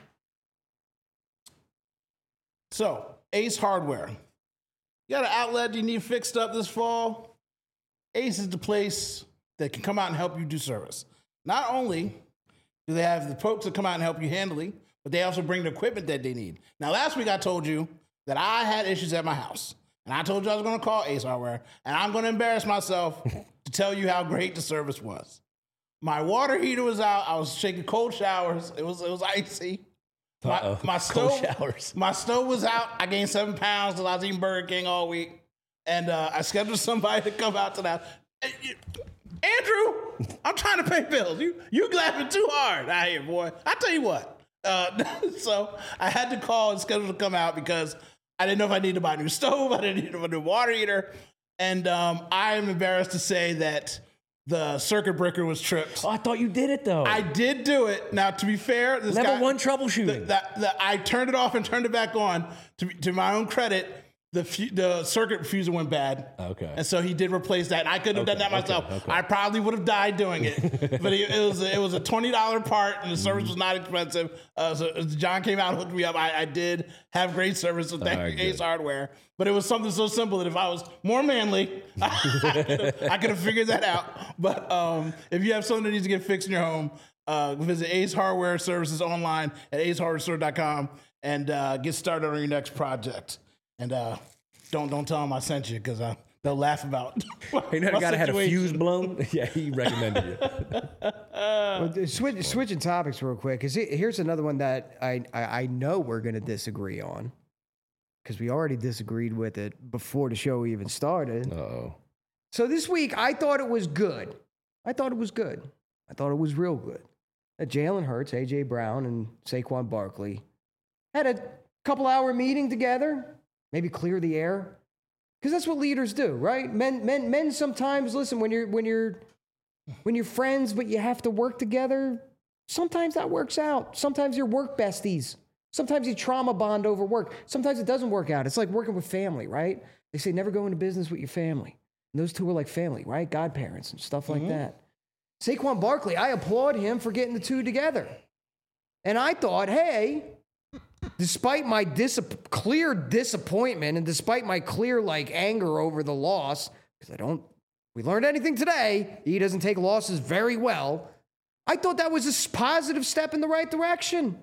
So, Ace Hardware. You got an outlet you need fixed up this fall? Ace is the place that can come out and help you do service. Not only do they have the folks that come out and help you handily, but they also bring the equipment that they need. Now, last week I told you that I had issues at my house. And I told you I was going to call Ace Hardware. And I'm going to embarrass myself to tell you how great the service was. My water heater was out. I was taking cold showers. It was, it was icy. My, my stove, showers. My stove was out. I gained seven pounds because I was eating Burger King all week. And uh, I scheduled somebody to come out to that. Andrew, I'm trying to pay bills. You you laughing too hard out here, boy. I tell you what. Uh, so I had to call and schedule to come out because I didn't know if I needed to buy a new stove. I didn't need a new water heater. And um, I am embarrassed to say that the circuit breaker was tripped. Oh, I thought you did it, though. I did do it. Now, to be fair, this Level guy, one troubleshooting. The, the, the, I turned it off and turned it back on. To, to my own credit, the fu- the circuit fuser went bad. Okay. And so he did replace that. And I couldn't have Okay, done that myself. okay, okay. I probably would have died doing it. But it, it was it was a twenty dollars part, and the service was not expensive. Uh, so John came out and hooked me up. I, I did have great service with thank Right, Ace good. Hardware. But it was something so simple that if I was more manly, I could have figured that out. But um, if you have something that needs to get fixed in your home, uh, visit Ace Hardware Services online at ace hardware store dot com and uh, get started on your next project. And uh, don't don't tell them I sent you because uh, they'll laugh about. You know, the my guy that had a situation. fuse blown. Yeah, he recommended it. Well, th- switch, switching topics real quick, because here's another one that I, I, I know we're going to disagree on, because we already disagreed with it before the show even started. Uh-oh. So this week, I thought it was good. I thought it was good. I thought it was real good. That Jalen Hurts, A J Brown, and Saquon Barkley had a couple hour meeting together, maybe clear the air, because that's what leaders do, right? Men, men, men. Sometimes, listen, when you're when you're when you're friends, but you have to work together. Sometimes that works out. Sometimes you're work besties. Sometimes you trauma bond over work. Sometimes it doesn't work out. It's like working with family, right? They say never go into business with your family. And those two are like family, right? Godparents and stuff like mm-hmm. that. Saquon Barkley, I applaud him for getting the two together. And I thought, hey, despite my dis- clear disappointment and despite my clear like anger over the loss, because I don't, we learned anything today, he doesn't take losses very well. I thought that was a positive step in the right direction.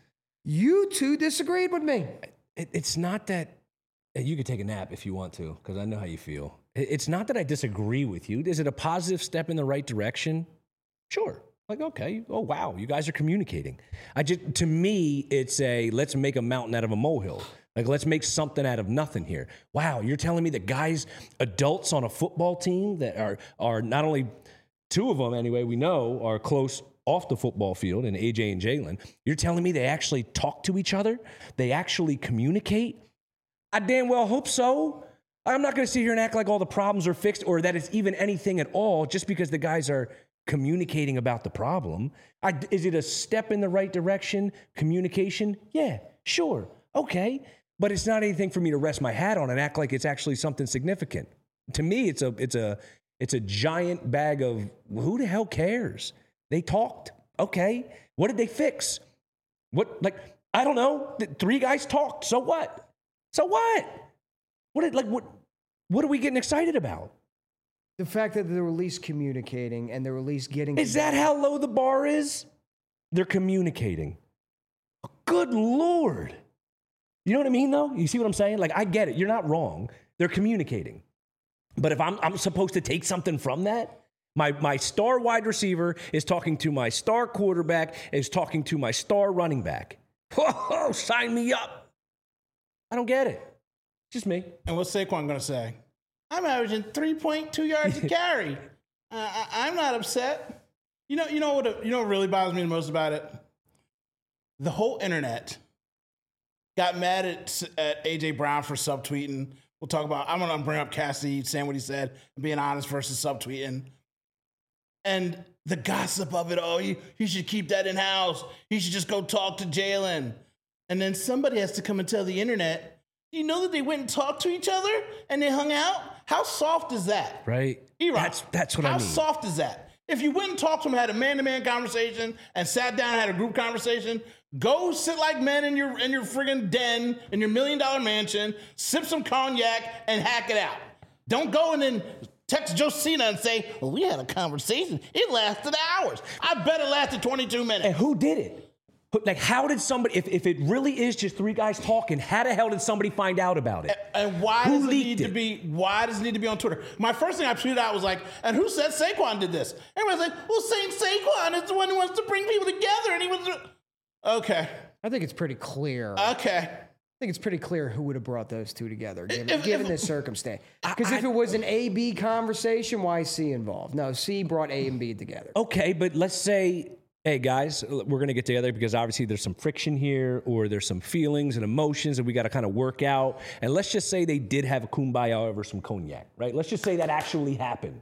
You two disagreed with me. It, it's not that you could take a nap if you want to, because I know how you feel. It, it's not that I disagree with you. Is it a positive step in the right direction? Sure. Like, okay. Oh, wow. You guys are communicating. I just, to me, it's a, let's make a mountain out of a molehill. Like, let's make something out of nothing here. Wow. You're telling me that guys, adults on a football team that are, are not only two of them anyway, we know are close off the football field, and A J and Jalen, you're telling me they actually talk to each other? They actually communicate? I damn well hope so. I'm not going to sit here and act like all the problems are fixed or that it's even anything at all just because the guys are communicating about the problem. I, is it a step in the right direction? Communication? Yeah, sure. Okay. But it's not anything for me to rest my hat on and act like it's actually something significant. To me, it's a it's a it's a giant bag of who the hell cares? They talked. Okay. What did they fix? What, like, I don't know. The three guys talked. So what? So what? What did, like, what, what are we getting excited about? The fact that they're at least communicating and they're at least getting. Is that how low the bar is? They're communicating. Good Lord. You know what I mean, though? You see what I'm saying? Like, I get it. You're not wrong. They're communicating. But if I'm, I'm supposed to take something from that, My my star wide receiver is talking to my star quarterback, is talking to my star running back. Whoa, sign me up. I don't get it. Just me. And what's Saquon going to say? I'm averaging three point two yards a carry. uh, I, I'm not upset. You know, you know what? You know what really bothers me the most about it? The whole internet got mad at, at A J Brown for subtweeting. We'll talk about. I'm going to bring up Cassidy saying what he said and being honest versus subtweeting. And the gossip of it, oh, he, he should keep that in-house. He should just go talk to Jalen. And then somebody has to come and tell the internet, you know that they went and talked to each other and they hung out? How soft is that? Right. E-Rock, That's, that's what how I mean. soft is that? If you went and talked to them, had a man-to-man conversation, and sat down and had a group conversation, go sit like men in your in your friggin' den, in your million-dollar mansion, sip some cognac, and hack it out. Don't go and then text Josina and say, well, we had a conversation. It lasted hours. I bet it lasted twenty-two minutes. And who did it? Like, how did somebody, if, if it really is just three guys talking, how the hell did somebody find out about it? And, and why who does it leaked need it? to be, why does it need to be on Twitter? My first thing I tweeted out was like, and who said Saquon did this? Everybody's like, well, Saint Saquon is the one who wants to bring people together, and he was, okay. I think it's pretty clear. Okay. I think it's pretty clear who would have brought those two together, given, If- given if- this circumstance. Because if it was an A B conversation, why is C involved? No, C brought A and B together. Okay, but let's say, hey guys, we're gonna get together because obviously there's some friction here, or there's some feelings and emotions that we got to kind of work out. And let's just say they did have a kumbaya over some cognac, right? Let's just say that actually happened.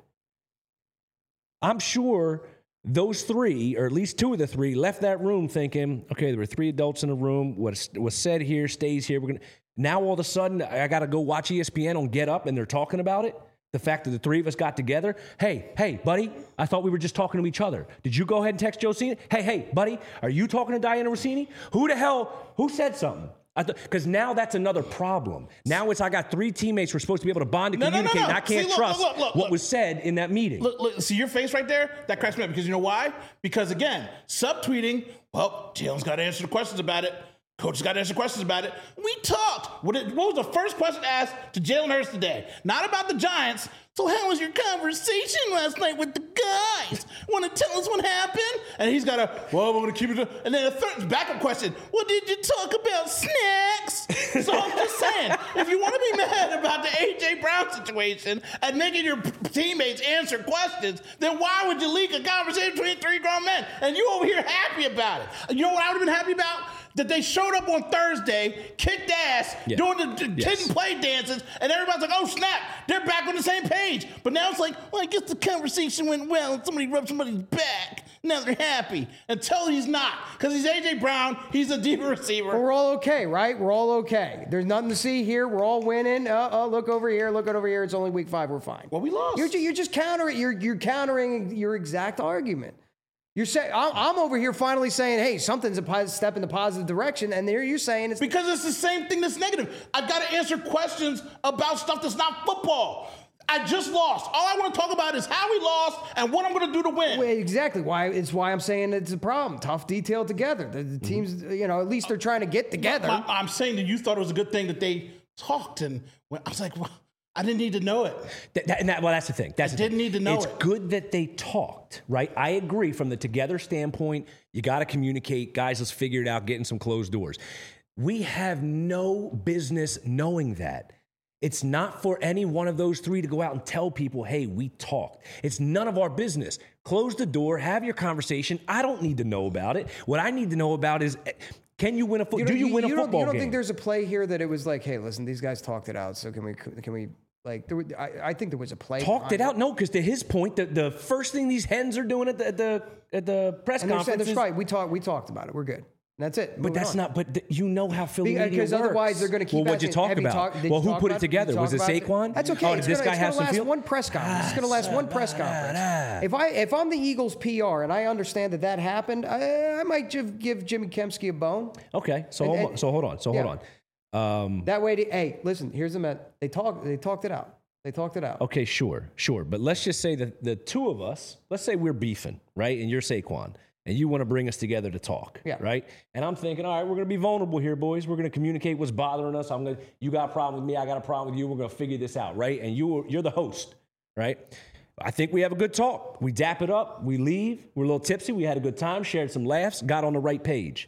I'm sure those three, or at least two of the three, left that room thinking, okay, there were three adults in the room. What was said here stays here. We're gonna now all of a sudden I got to go watch E S P N on Get Up, and they're talking about it. The fact that the three of us got together. Hey, hey, buddy, I thought we were just talking to each other. Did you go ahead and text Josina? Hey, hey, buddy, are you talking to Diana Rossini? Who the hell, who said something? Because now that's another problem. Now it's I got three teammates who are supposed to be able to bond and No, no, no, communicate, no. and I can't See, look, trust look, look, look, what look. was said in that meeting. Look, look, see your face right there? That cracks me up because you know why? Because again, subtweeting, well, Jalen's got to answer the questions about it. Coach has got to answer questions about it. We talked. What, it, what was the first question asked to Jalen Hurts today? Not about the Giants. So how was your conversation last night with the guys? Want to tell us what happened? And he's got a, well, we're going to keep it. And then a third backup question. Well, did you talk about snacks? So I'm just saying, if you want to be mad about the A J Brown situation and making your teammates answer questions, then why would you leak a conversation between three grown men? And you over here happy about it. You know what I would have been happy about? That they showed up on Thursday, kicked ass, Yeah. doing the d- Yes. kid and play dances, and everybody's like, oh, snap, they're back on the same page. But now it's like, well, I guess the conversation went well, and somebody rubbed somebody's back. Now they're happy. Until he's not. Because he's A J Brown, he's a deep receiver. But we're all okay, right? We're all okay. There's nothing to see here. We're all winning. Uh, oh, look over here. Look over here. It's only week five. We're fine. Well, we lost. You're, ju- you're just countering. You're you're countering your exact argument. You're saying I'm, I'm over here finally saying, hey, something's a pos- step in the positive direction, and there you're saying it's Because it's the same thing that's negative. I've got to answer questions about stuff that's not football. I just lost. All I want to talk about is how we lost and what I'm going to do to win. Well, exactly why it's why I'm saying it's a problem. Tough detail together. The, the teams, you know, at least they're trying to get together. My- I'm saying that you thought it was a good thing that they talked, and when, I was like, well, I didn't need to know it. That, that, and that, well, that's the thing. That's I the didn't thing. need to know it's it. It's good that they talked, right? I agree. From the together standpoint, you got to communicate. Guys, let's figure it out, get in some closed doors. We have no business knowing that. It's not for any one of those three to go out and tell people, hey, we talked. It's none of our business. Close the door, have your conversation. I don't need to know about it. What I need to know about is, can you win a football? don't- Do you, win a don't- football You don't game? think there's a play here that it was like, hey, listen, these guys talked it out, so can we can we like? There, were- I, I think there was a play. Talked behind it out? No, because to his point, the, the first thing these hens are doing at the at the, at the press And they're saying conference that's is, right. We talked. We talked about it. We're good. And that's it. but Moving that's on. not. But th- you know how Philly media Because works. otherwise they're going to keep. Well, what'd you asking, talk have about? talk- did well, you who talk put it about Did you together? talk Was it about Saquon? That's okay. Oh, did it's this gonna, guy it's have gonna some last feel? one press conference. It's going to last one press conference. If I if I'm the Eagles P R and I understand that that happened, I, I might give, give Jimmy Kempski a bone. Okay, so And- hold on. and- So hold on. So yeah. hold on. Um, That way, to, hey, listen. Here's the met. They talked. They talked it out. They talked it out. Okay, sure, sure. But let's just say that the two of us, let's say we're beefing, right? And you're Saquon, and you want to bring us together to talk, Yeah. right? And I'm thinking, all right, we're going to be vulnerable here, boys. We're going to communicate what's bothering us. I'm going to, you got a problem with me. I got a problem with you. We're going to figure this out, right? And you, you're the host, right? I think we have a good talk. We dap it up. We leave. We're a little tipsy. We had a good time, shared some laughs, got on the right page.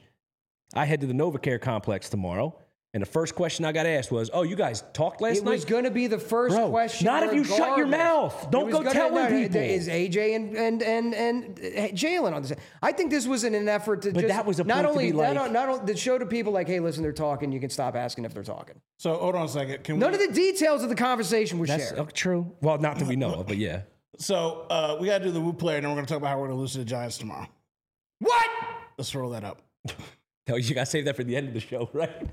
I head to the NovaCare complex tomorrow. And the first question I got asked was, oh, you guys talked last It night? was going to be the first Bro, question. not if you shut your regardless. mouth. Don't It was go gonna- telling no, no, people. Is A J and and and and uh, Jalen on this? I think this was in an effort to But just that was a not point to only be not, like- not only to show to people like, hey, listen, they're talking. You can stop asking if they're talking. So hold on a second. Can None we, of the details of the conversation were That's shared. uh, true. Well, not that we know of, but yeah. So uh, we got to do the Woo player, and then we're going to talk about how we're going to lose to the Giants tomorrow. What? Let's roll that up. No, you got to save that for the end of the show, right?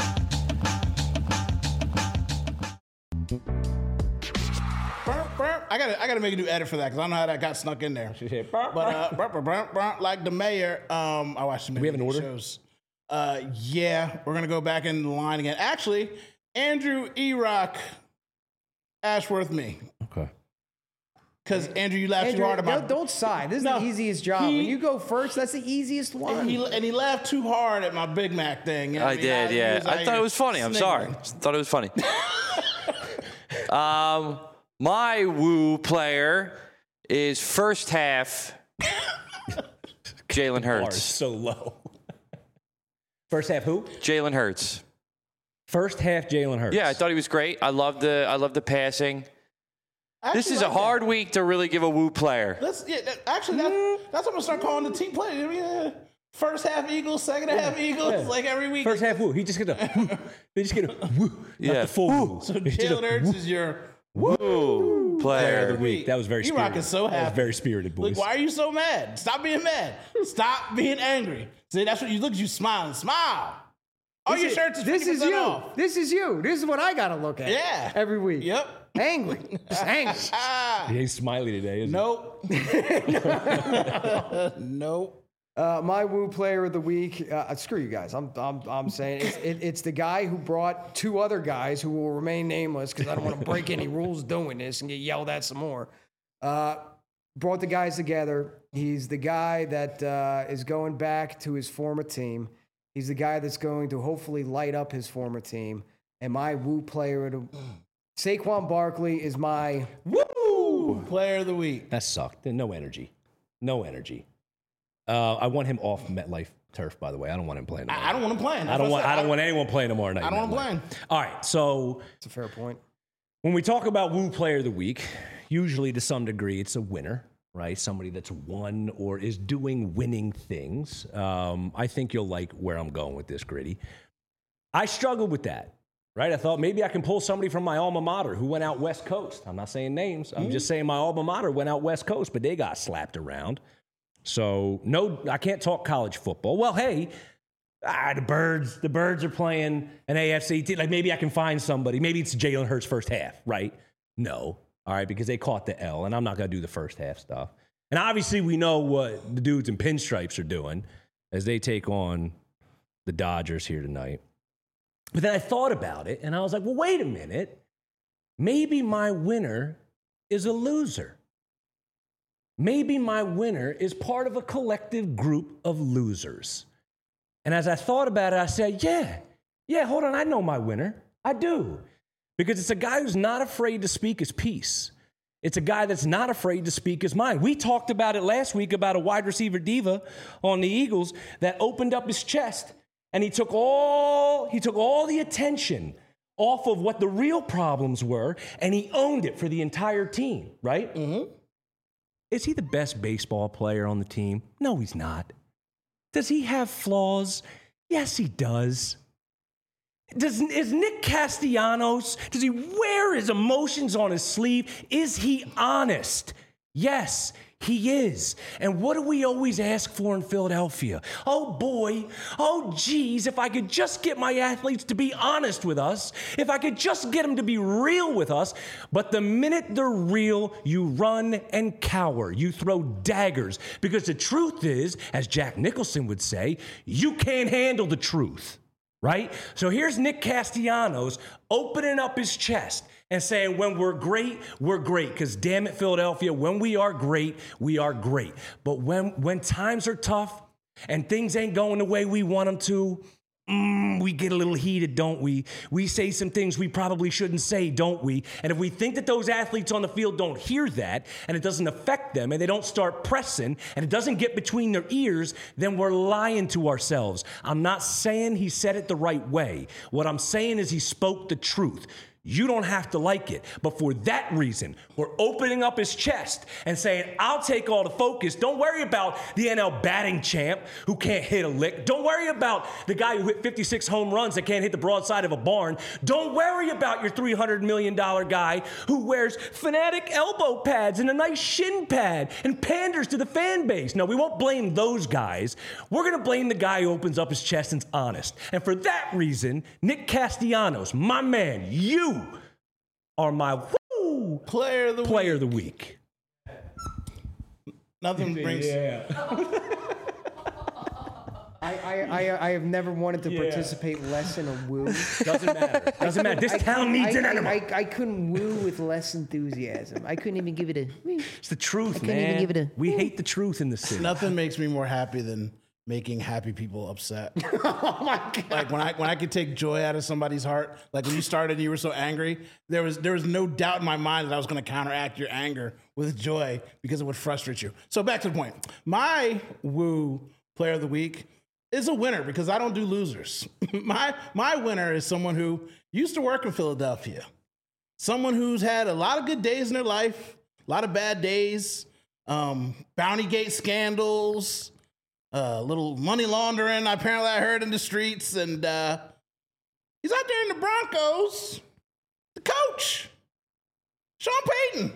I I got I got to make a new edit for that because I don't know how that got snuck in there. But uh, brr, brr, brr, brr, like the mayor, um, I watched some we have an order? shows. Uh, yeah, we're gonna go back in the line again. Actually, Andrew E-Rock, Ashworth, me. Okay. Because Andrew, you laughed Andrew, too hard about. don't, don't sigh. This is No, the easiest job. he- when you go first, that's the easiest one. And he, and he laughed too hard at my Big Mac thing. You know what I mean? did, He yeah. was out I thought here it was funny. I'm sorry. sniggering. Thought it was funny. um, my woo player is first half Jalen Bar is Hurts. so low. First half who? Jalen Hurts. First half Jalen Hurts. Yeah, I thought he was great. I love the I love the passing. I This actually is a like that. hard week to really give a woo player. Let's yeah. that- Actually, that's, that's what I'm gonna start calling the team play. I mean, uh, first half Eagles, second half Eagles, Yeah. like every week. First half woo. He just get a they just get a woo. Not Yeah. the full woo. so It's just a Jalen Hurts is your Woo player of the player. week. That was very E-Rock spirited. is so That was happy. very spirited, boys. Like, why are you so mad? Stop being mad. Stop being angry. See, that's what you look at you smiling. Smile. All your shirts is This fifty is percent you. off. This is you. This is what I got to look at. Yeah. Every week. Yep. Angry. Just angry. Ah. He ain't smiley today, is he? Nope. Nope. Uh, my woo player of the week. Uh, screw you guys. I'm I'm I'm saying it's, it, it's the guy who brought two other guys who will remain nameless because I don't want to break any rules doing this and get yelled at some more. Uh, brought the guys together. He's the guy that uh, is going back to his former team. He's the guy that's going to hopefully light up his former team. And my woo player of the Saquon Barkley is my Woo! Player of the week. That sucked. No energy. No energy. Uh, I want him off MetLife turf, by the way. I don't want him playing tomorrow. I, I don't want him playing. I don't want. I don't want anyone playing tomorrow night. I don't want him MetLife. playing. All right. So It's a fair point. when we talk about woo player of the week, usually to some degree it's a winner, right? Somebody that's won or is doing winning things. Um, I think you'll like where I'm going with this, Gritty. I struggled with that, right? I thought maybe I can pull somebody from my alma mater who went out West Coast. I'm not saying names. I'm just saying my alma mater went out West Coast, but they got slapped around. So no, I can't talk college football. Well, hey, ah, the birds, the birds are playing an A F C team. Like maybe I can find somebody. Maybe it's Jalen Hurts first half, right? No, all right, because they caught the L, and I'm not gonna do the first half stuff. And obviously, we know what the dudes in pinstripes are doing as they take on the Dodgers here tonight. But then I thought about it, and I was like, well, wait a minute. Maybe my winner is a loser. Maybe my winner is part of a collective group of losers. And as I thought about it, I said, yeah, yeah, hold on, I know my winner. I do. Because it's a guy who's not afraid to speak his piece. It's a guy that's not afraid to speak his mind. We talked about it last week about a wide receiver diva on the Eagles that opened up his chest and he took all, he took all the attention off of what the real problems were and he owned it for the entire team, right? Mm-hmm. Is he the best baseball player on the team? No, he's not. Does he have flaws? Yes, he does. Does, is Nick Castellanos, does he wear his emotions on his sleeve? Is he honest? Yes, he is. And what do we always ask for in Philadelphia? Oh boy, oh geez, if I could just get my athletes to be honest with us, if I could just get them to be real with us. But the minute they're real, you run and cower. You throw daggers. Because the truth is, as Jack Nicholson would say, you can't handle the truth. Right? So here's Nick Castellanos opening up his chest and saying, when we're great, we're great. Because damn it, Philadelphia, when we are great, we are great. But when, when times are tough and things ain't going the way we want them to, mm, we get a little heated, don't we? We say some things we probably shouldn't say, don't we? And if we think that those athletes on the field don't hear that and it doesn't affect them and they don't start pressing and it doesn't get between their ears, then we're lying to ourselves. I'm not saying he said it the right way. What I'm saying is he spoke the truth. You don't have to like it. But for that reason, we're opening up his chest and saying, I'll take all the focus. Don't worry about the N L batting champ who can't hit a lick. Don't worry about the guy who hit fifty-six home runs that can't hit the broadside of a barn. Don't worry about your three hundred million dollars guy who wears Fanatic elbow pads and a nice shin pad and panders to the fan base. No, we won't blame those guys. We're going to blame the guy who opens up his chest and's honest. And for that reason, Nick Castellanos, my man, you are my woo Player of the Player week. of the week. Nothing brings. I, I, I, I have never wanted to participate less in a woo. Doesn't matter. Doesn't matter. This I town couldn't- needs I, an I, animal. I, I couldn't woo with less enthusiasm. I couldn't even give it a. It's the truth, couldn't even man. give it a- We hate the truth in the city. Nothing makes me more happy than making happy people upset. Oh my god! Like when I when I could take joy out of somebody's heart. Like when you started and you were so angry, there was there was no doubt in my mind that I was going to counteract your anger with joy because it would frustrate you. So back to the point. My woo player of the week is a winner because I don't do losers. my my winner is someone who used to work in Philadelphia. Someone who's had a lot of good days in their life, a lot of bad days, um, Bounty Gate scandals, a uh, little money laundering, apparently I heard in the streets, and uh, he's out there in the Broncos. The coach, Sean Payton,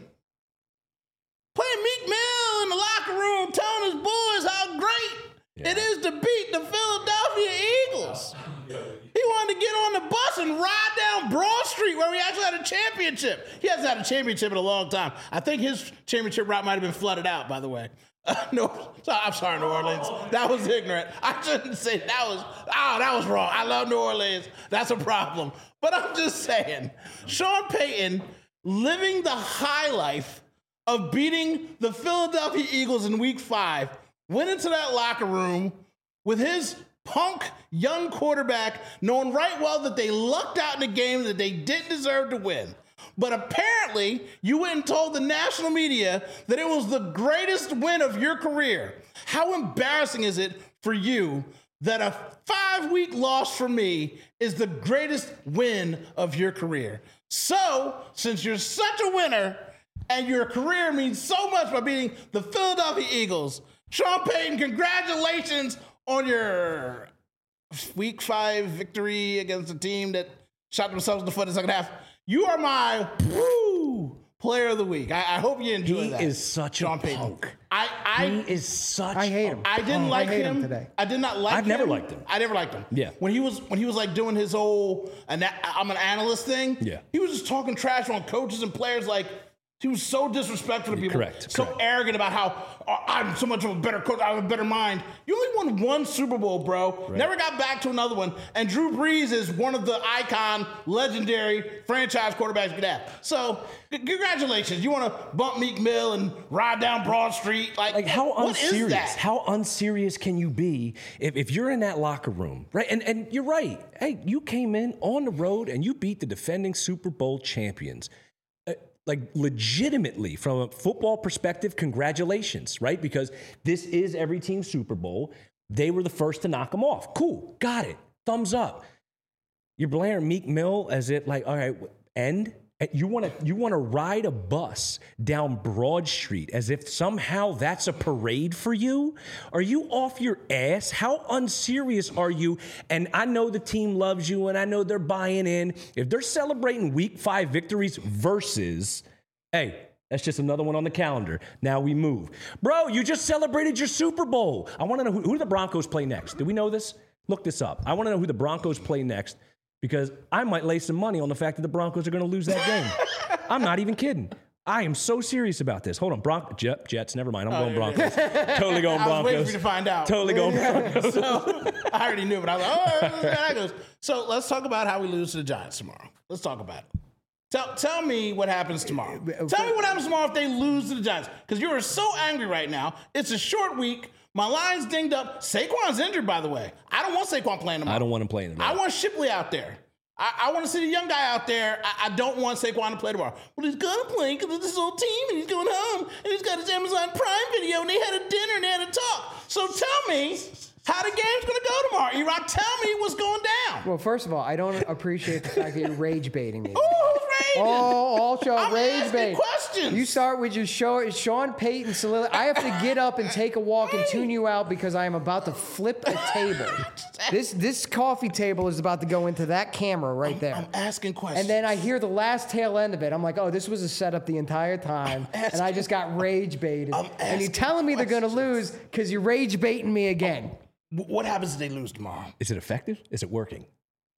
playing Meek Mill in the locker room, telling his boys how great Yeah. it is to beat the Philadelphia Eagles. He wanted to get on the bus and ride down Broad Street where we actually had a championship. He hasn't had a championship in a long time. I think his championship route might have been flooded out, by the way. Uh, no, so, I'm sorry, New Orleans. That was ignorant. I shouldn't say that was, oh, that was wrong. I love New Orleans. That's a problem. But I'm just saying, Sean Payton living the high life of beating the Philadelphia Eagles in week five, went into that locker room with his punk young quarterback, knowing right well that they lucked out in a game that they didn't deserve to win. But apparently, you went and told the national media that it was the greatest win of your career. How embarrassing is it for you that a five-week loss for me is the greatest win of your career? So, since you're such a winner and your career means so much by beating the Philadelphia Eagles, Sean Payton, congratulations on your week five victory against a team that shot themselves in the foot in the second half. You are my woo, player of the week. I, I hope you enjoy He that. is such Sean a Payton. punk. I, I, He is such I hate a him. I didn't Oh, like I hate him. him today. I did not like I've him. never liked him. I never liked him. Yeah. When he was when he was like doing his whole ana- I'm an analyst thing. Yeah. He was just talking trash on coaches and players. Like he was so disrespectful to people. Correct, So correct. arrogant about how oh, I'm so much of a better coach. I have a better mind. You only won one Super Bowl, bro. Never got back to another one. And Drew Brees is one of the icon, legendary franchise quarterbacks you could have. So c- congratulations. You want to bump Meek Mill and ride down Broad Street? Like, Like how what is unserious? that? How unserious can you be if, if you're in that locker room, right? And and you're right. Hey, you came in on the road and you beat the defending Super Bowl champions. Uh, Like legitimately, from a football perspective, congratulations, right? Because this is every team's Super Bowl. They were the first to knock them off. Cool, got it. Thumbs up. You're blaring Meek Mill as if like, all right, end. You want to you want to ride a bus down Broad Street as if somehow that's a parade for you? Are you off your ass? How unserious are you? And I know the team loves you and I know they're buying in. If they're celebrating week five victories versus, hey, that's just another one on the calendar. Now we move. Bro, you just celebrated your Super Bowl. I want to know who, who do the Broncos play next? Do we know this? Look this up. I want to know who the Broncos play next. Because I might lay some money on the fact that the Broncos are going to lose that game. I'm not even kidding. I am so serious about this. Hold on, Bron- Jet, Jets. Never mind. I'm going Broncos. Totally going I was waiting Broncos. for you to find out. Totally going Broncos. So I already knew, but I was like, oh, let's see how that goes. So let's talk about how we lose to the Giants tomorrow. Let's talk about it. Tell, tell me what happens tomorrow. Tell me what happens tomorrow if they lose to the Giants. Because you are so angry right now. It's a short week. My line's dinged up. Saquon's injured, by the way. I don't want Saquon playing tomorrow. I don't want him playing tomorrow. I want Shipley out there. I, I want to see the young guy out there. I, I don't want Saquon to play tomorrow. Well, he's going to play because it's his old team, and he's going home, and he's got his Amazon Prime video, and they had a dinner, and they had a talk. So tell me how the game's going to go tomorrow. E-Rock, tell me what's going down. Well, first of all, I don't appreciate the fact that you're rage baiting me. Ooh, raging. Oh, all show I'm rage asking bait. questions. You start with your show, Sean Payton soliloquy. I have to get up and take a walk and tune you out because I am about to flip a table. This this coffee table is about to go into that camera right there. I'm asking questions. And then I hear the last tail end of it. I'm like, oh, this was a setup the entire time. And I just got rage baited. I'm And you're asking telling me they're going to lose questions. because you're rage baiting me again. W- what happens if they lose tomorrow? Is it effective? Is it working?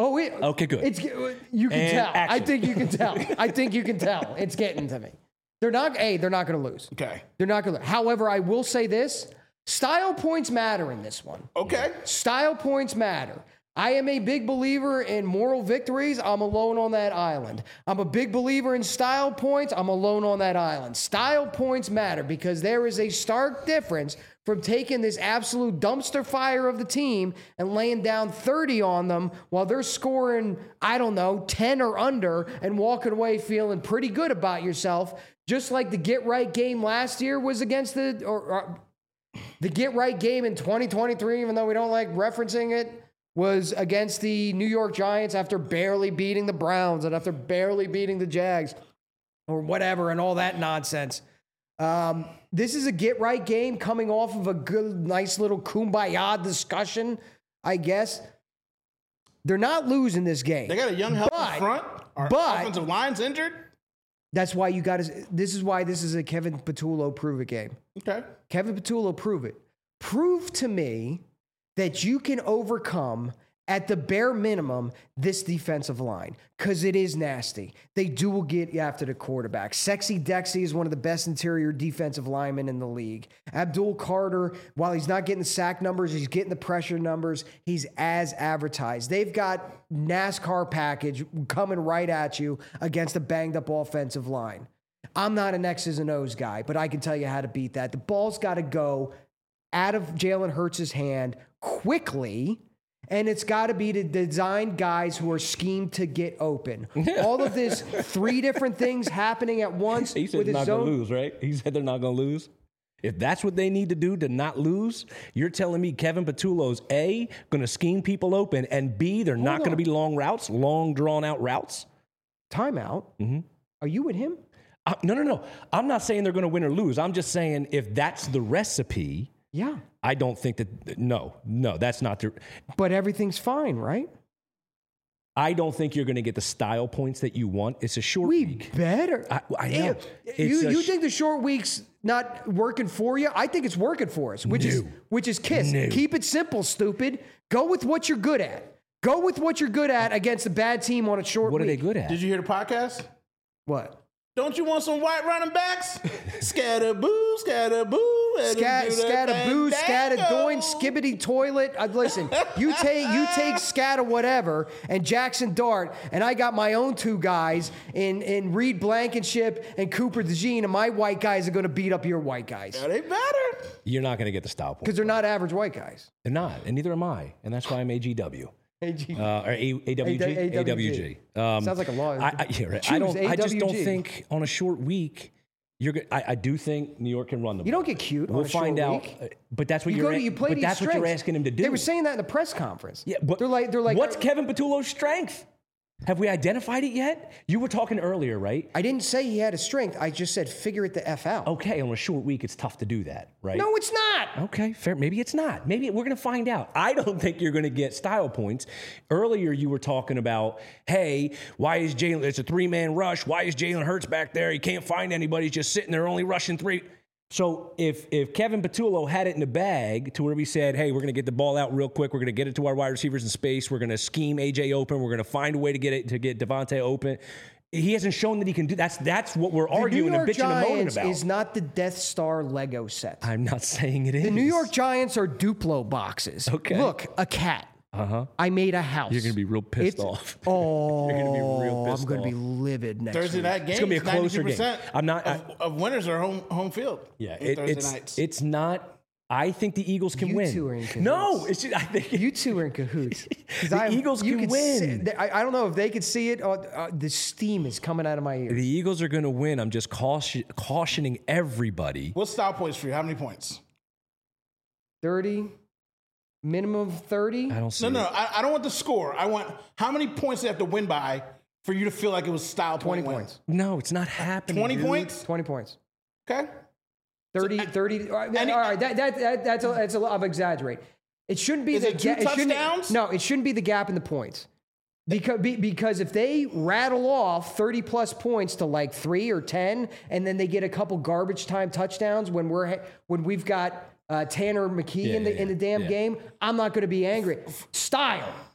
Oh, it, Okay, good. It's you can And tell. I action. think you can tell. I think you can tell. It's getting to me. They're not. A. They're not going to lose. Okay. They're not going to. However, I will say this: style points matter in this one. Okay. Style points matter. I am a big believer in moral victories. I'm alone on that island. I'm a big believer in style points. I'm alone on that island. Style points matter because there is a stark difference from taking this absolute dumpster fire of the team and laying down thirty on them while they're scoring, I don't know, ten or under and walking away feeling pretty good about yourself. Just like the get right game last year was against the, or, or the get right game in twenty twenty-three, even though we don't like referencing it, was against the New York Giants after barely beating the Browns and after barely beating the Jags or whatever and all that nonsense. Um, this is a get-right game coming off of a good, nice little kumbaya discussion, I guess. They're not losing this game. They got a young, healthy But- front. Our but- offensive line's injured. That's why you got to – this is why this is a Kevin Patullo prove-it game. Okay. Kevin Patullo, prove it. Prove to me that you can overcome, at the bare minimum, this defensive line, because it is nasty. They do get after the quarterback. Sexy Dexy is one of the best interior defensive linemen in the league. Abdul Carter, while he's not getting the sack numbers, he's getting the pressure numbers. He's as advertised. They've got NASCAR package coming right at you against a banged-up offensive line. I'm not an X's and O's guy, but I can tell you how to beat that. The ball's got to go out of Jalen Hurts' hand quickly, and it's got to be to design guys who are schemed to get open. All of this, three different things happening at once. He said with they're his not going zone. to lose, right? He said they're not going to lose. If that's what they need to do to not lose, you're telling me Kevin Patullo's A, going to scheme people open, and B, they're not going to on. be long routes, long drawn-out routes? Timeout. Mm-hmm. Are you with him? Uh, no, no, no. I'm not saying they're going to win or lose. I'm just saying if that's the recipe, Yeah. I don't think that, no, no, that's not the, But everything's fine, right? I don't think you're going to get the style points that you want. It's a short We week. better. I- I know. You, It's a you sh- think the short week's not working for you? I think it's working for us, which is No. which is KISS. No. Keep it simple, stupid. Go with what you're good at. Go with what you're good at against a bad team on a short What are week. they good at? Did you hear the podcast? What? Don't you want some white running backs? Scatter boo, scatter boo. Scat, scatter boo, scatter doin, skibbity toilet. Uh, listen, you take you take scatter whatever and Jackson Dart, and I got my own two guys in in Reed Blankenship and Cooper DeJean, and my white guys are going to beat up your white guys Yeah, they better. You're not going to get the style points. because they're not average white guys. They're not, and neither am I. And that's why I'm A G W. A G. Uh, or A- AWG? A- A W G. Um, Sounds like a law. I, I, yeah, right. I, Choose don't, I just don't A W G. think on a short week, you're good. I, I do think New York can run the You ball. don't get cute. on We'll a short find out. week. uh, But that's what You you're go to a- you play But to that's your what you're strengths. asking him to do. They were saying that in the press conference. Yeah, but they're like they're like what's I, Kevin Patullo's strength? Have we identified it yet? You were talking earlier, right? I didn't say he had a strength. I just said figure it the f out. Okay, on a short week, it's tough to do that, right? No, it's not. Okay, fair. Maybe it's not. Maybe we're going to find out. I don't think you're going to get style points. Earlier, you were talking about, hey, why is Jalen? It's a three-man rush. Why is Jalen Hurts back there? He can't find anybody. He's just sitting there, only rushing three. So if if Kevin Patullo had it in the bag to where we said, hey, we're going to get the ball out real quick. We're going to get it to our wide receivers in space. We're going to scheme A J open. We're going to find a way to get it to get Devontae open. He hasn't shown that he can do. That's that's what we're arguing the New and York bitching and moaning Giants about. is not the Death Star Lego set. I'm not saying it is. The New York Giants are Duplo boxes. Okay. Look, a cat. Uh-huh. I made a house. You're going to be real pissed It's- off. Oh, You're gonna be real pissed I'm going to be off. livid next Thursday week. night games. gonna be a closer game. ninety-two percent I'm not- I- Of, of winners are home home field. Yeah, in it, Thursday it's nights. it's not. I think the Eagles can You win. two are in cahoots. No, it's just, I think You two are in cahoots. 'Cause The I- Eagles you can could see- win. I, I don't know if they could see it. Or, uh, the steam is coming out of my ears. the Eagles are going to win. I'm just caution, cautioning everybody. What's style points for you? How many points? thirty, minimum of thirty. I don't see. No, no, it. I, I don't want the score. I want how many points they have to win by for you to feel like it was style twenty point points. No, it's not happening. twenty dude. points. twenty points. Okay. thirty, So, uh, thirty. All right, any- all right, that, that, that, that's a, that's a lot of exaggerate. It shouldn't be Is the it two ga- shouldn't- touchdowns? No, it shouldn't be the gap in the points. Because, be, because if they rattle off thirty plus points to like three or ten, and then they get a couple garbage time touchdowns when we're ha- when we've got uh, Tanner McKee Yeah, in the yeah, in the damn yeah. game, I'm not going to be angry. Style.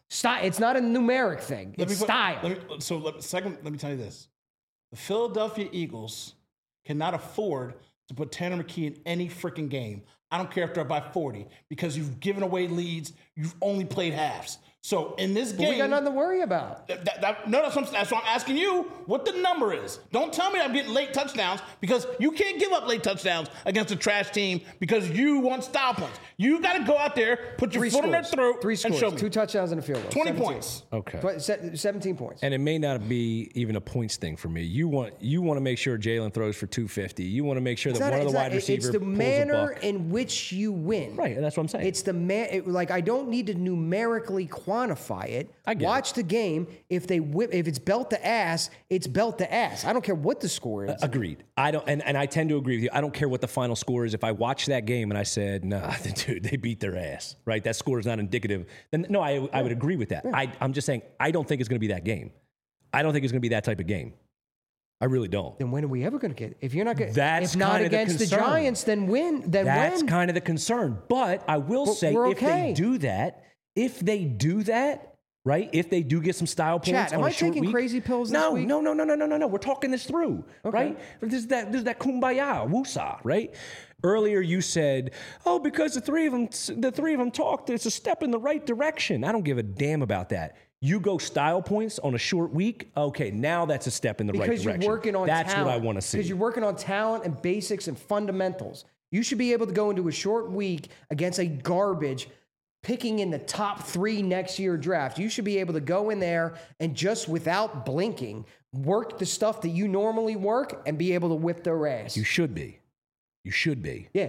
Style. It's not a numeric thing. Let It's me put- style. Let me, so let, second, let me tell you this: the Philadelphia Eagles cannot afford to put Tanner McKee in any freaking game. I don't care if they're by forty because you've given away leads. You've only played halves. So in this game, we got nothing to worry about. That, that, no, that's what, I'm, that's what I'm asking you what the number is. Don't tell me I'm getting late touchdowns because you can't give up late touchdowns against a trash team because you want style points. You got to go out there, put your Three foot scores. on their throat, Three and scores. show me. Two touchdowns and a field goal. twenty seventeen. points. Okay. Tw- se- seventeen points. And it may not be even a points thing for me. You want you want to make sure Jalen throws for two fifty. You want to make sure It's that not- one of it's the not- wide it- receivers It's the pulls manner a buck. in which you win. Right, and that's what I'm saying. It's the man. It, like I don't need to numerically quantify it. I get Watch the game. If they whip, if it's belt to ass, it's belt to ass. I don't care what the score is. Agreed. I don't, and, and I tend to agree with you. I don't care what the final score is. If I watch that game and I said, "Nah, dude, they beat their ass," right? That score is not indicative. Then no, I I would agree with that. I I'm just saying I don't think it's going to be that game. I don't think it's going to be that type of game. I really don't. Then when are we ever going to get? If you're not going, That's if not kinda the against the, concern. Giants, then win. Then That's when? kind of the concern. But I will say, we're if okay. they do that, if they do that, right? If they do get some style points, Chat, am on a I short taking week- crazy pills this no, week? No, no, no, no, no, no, no. We're talking this through, Okay. right? This is that. This is that kumbaya, woosah, right? Earlier you said, "Oh, because the three of them, the three of them talked. It's a step in the right direction." I don't give a damn about that. You go style points on a short week. Okay, now that's a step in the right Because direction. you're working on that's talent. what I want to see. Because you're working on talent and basics and fundamentals. You should be able to go into a short week against a garbage, picking in the top three next year draft. You should be able to go in there and just without blinking, work the stuff that you normally work and be able to whip their ass. You should be. You should be. yeah.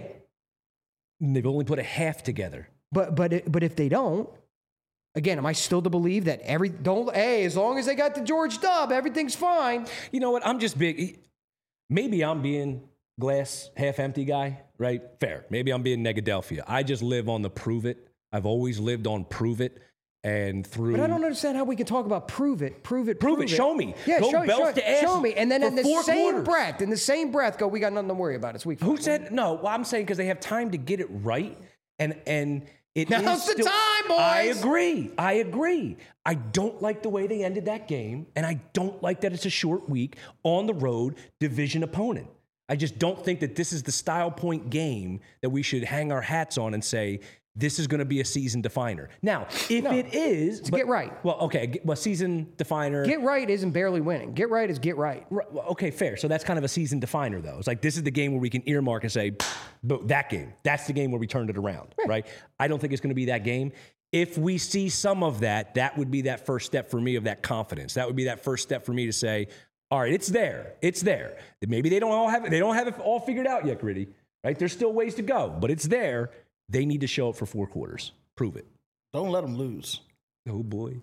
And they've only put a half together. But but it- but if they don't, again, am I still to believe that every don't hey, as long as they got the George Dub, everything's fine. You know what? I'm just big. Maybe I'm being glass half empty guy, right? Fair. Maybe I'm being Negadelphia. I just live on the prove it. I've always lived on prove it. And through. But I don't understand how we can talk about prove it, prove it, Prove prove it, show me. Yeah, Go show, belt show, to ass show me. And then for in the four same quarters. breath, in the same breath, go, we got nothing to worry about. It's week Who five. said no? Well, I'm saying because they have time to get it right. And and it Now's is the still- time, boys. I agree. I agree. I don't like the way they ended that game, and I don't like that it's a short week on the road, division opponent. I just don't think that this is the style point game that we should hang our hats on and say this is going to be a season definer. Now, if No. it is, It's get right. Well, okay, get- well, season definer. Get right isn't barely winning. Get right is get right. Right, well, okay, fair. So that's kind of a season definer, though. It's like this is the game where we can earmark and say, "But that game, that's the game where we turned it around, right?" I don't think it's going to be that game. If we see some of that, that would be that first step for me of that confidence. That would be that first step for me to say, "All right, it's there, it's there." Maybe they don't all have it. They don't have it all figured out yet, Gritty. Right? There's still ways to go, but it's there. They need to show up for four quarters. Prove it. Don't let them lose. Oh boy.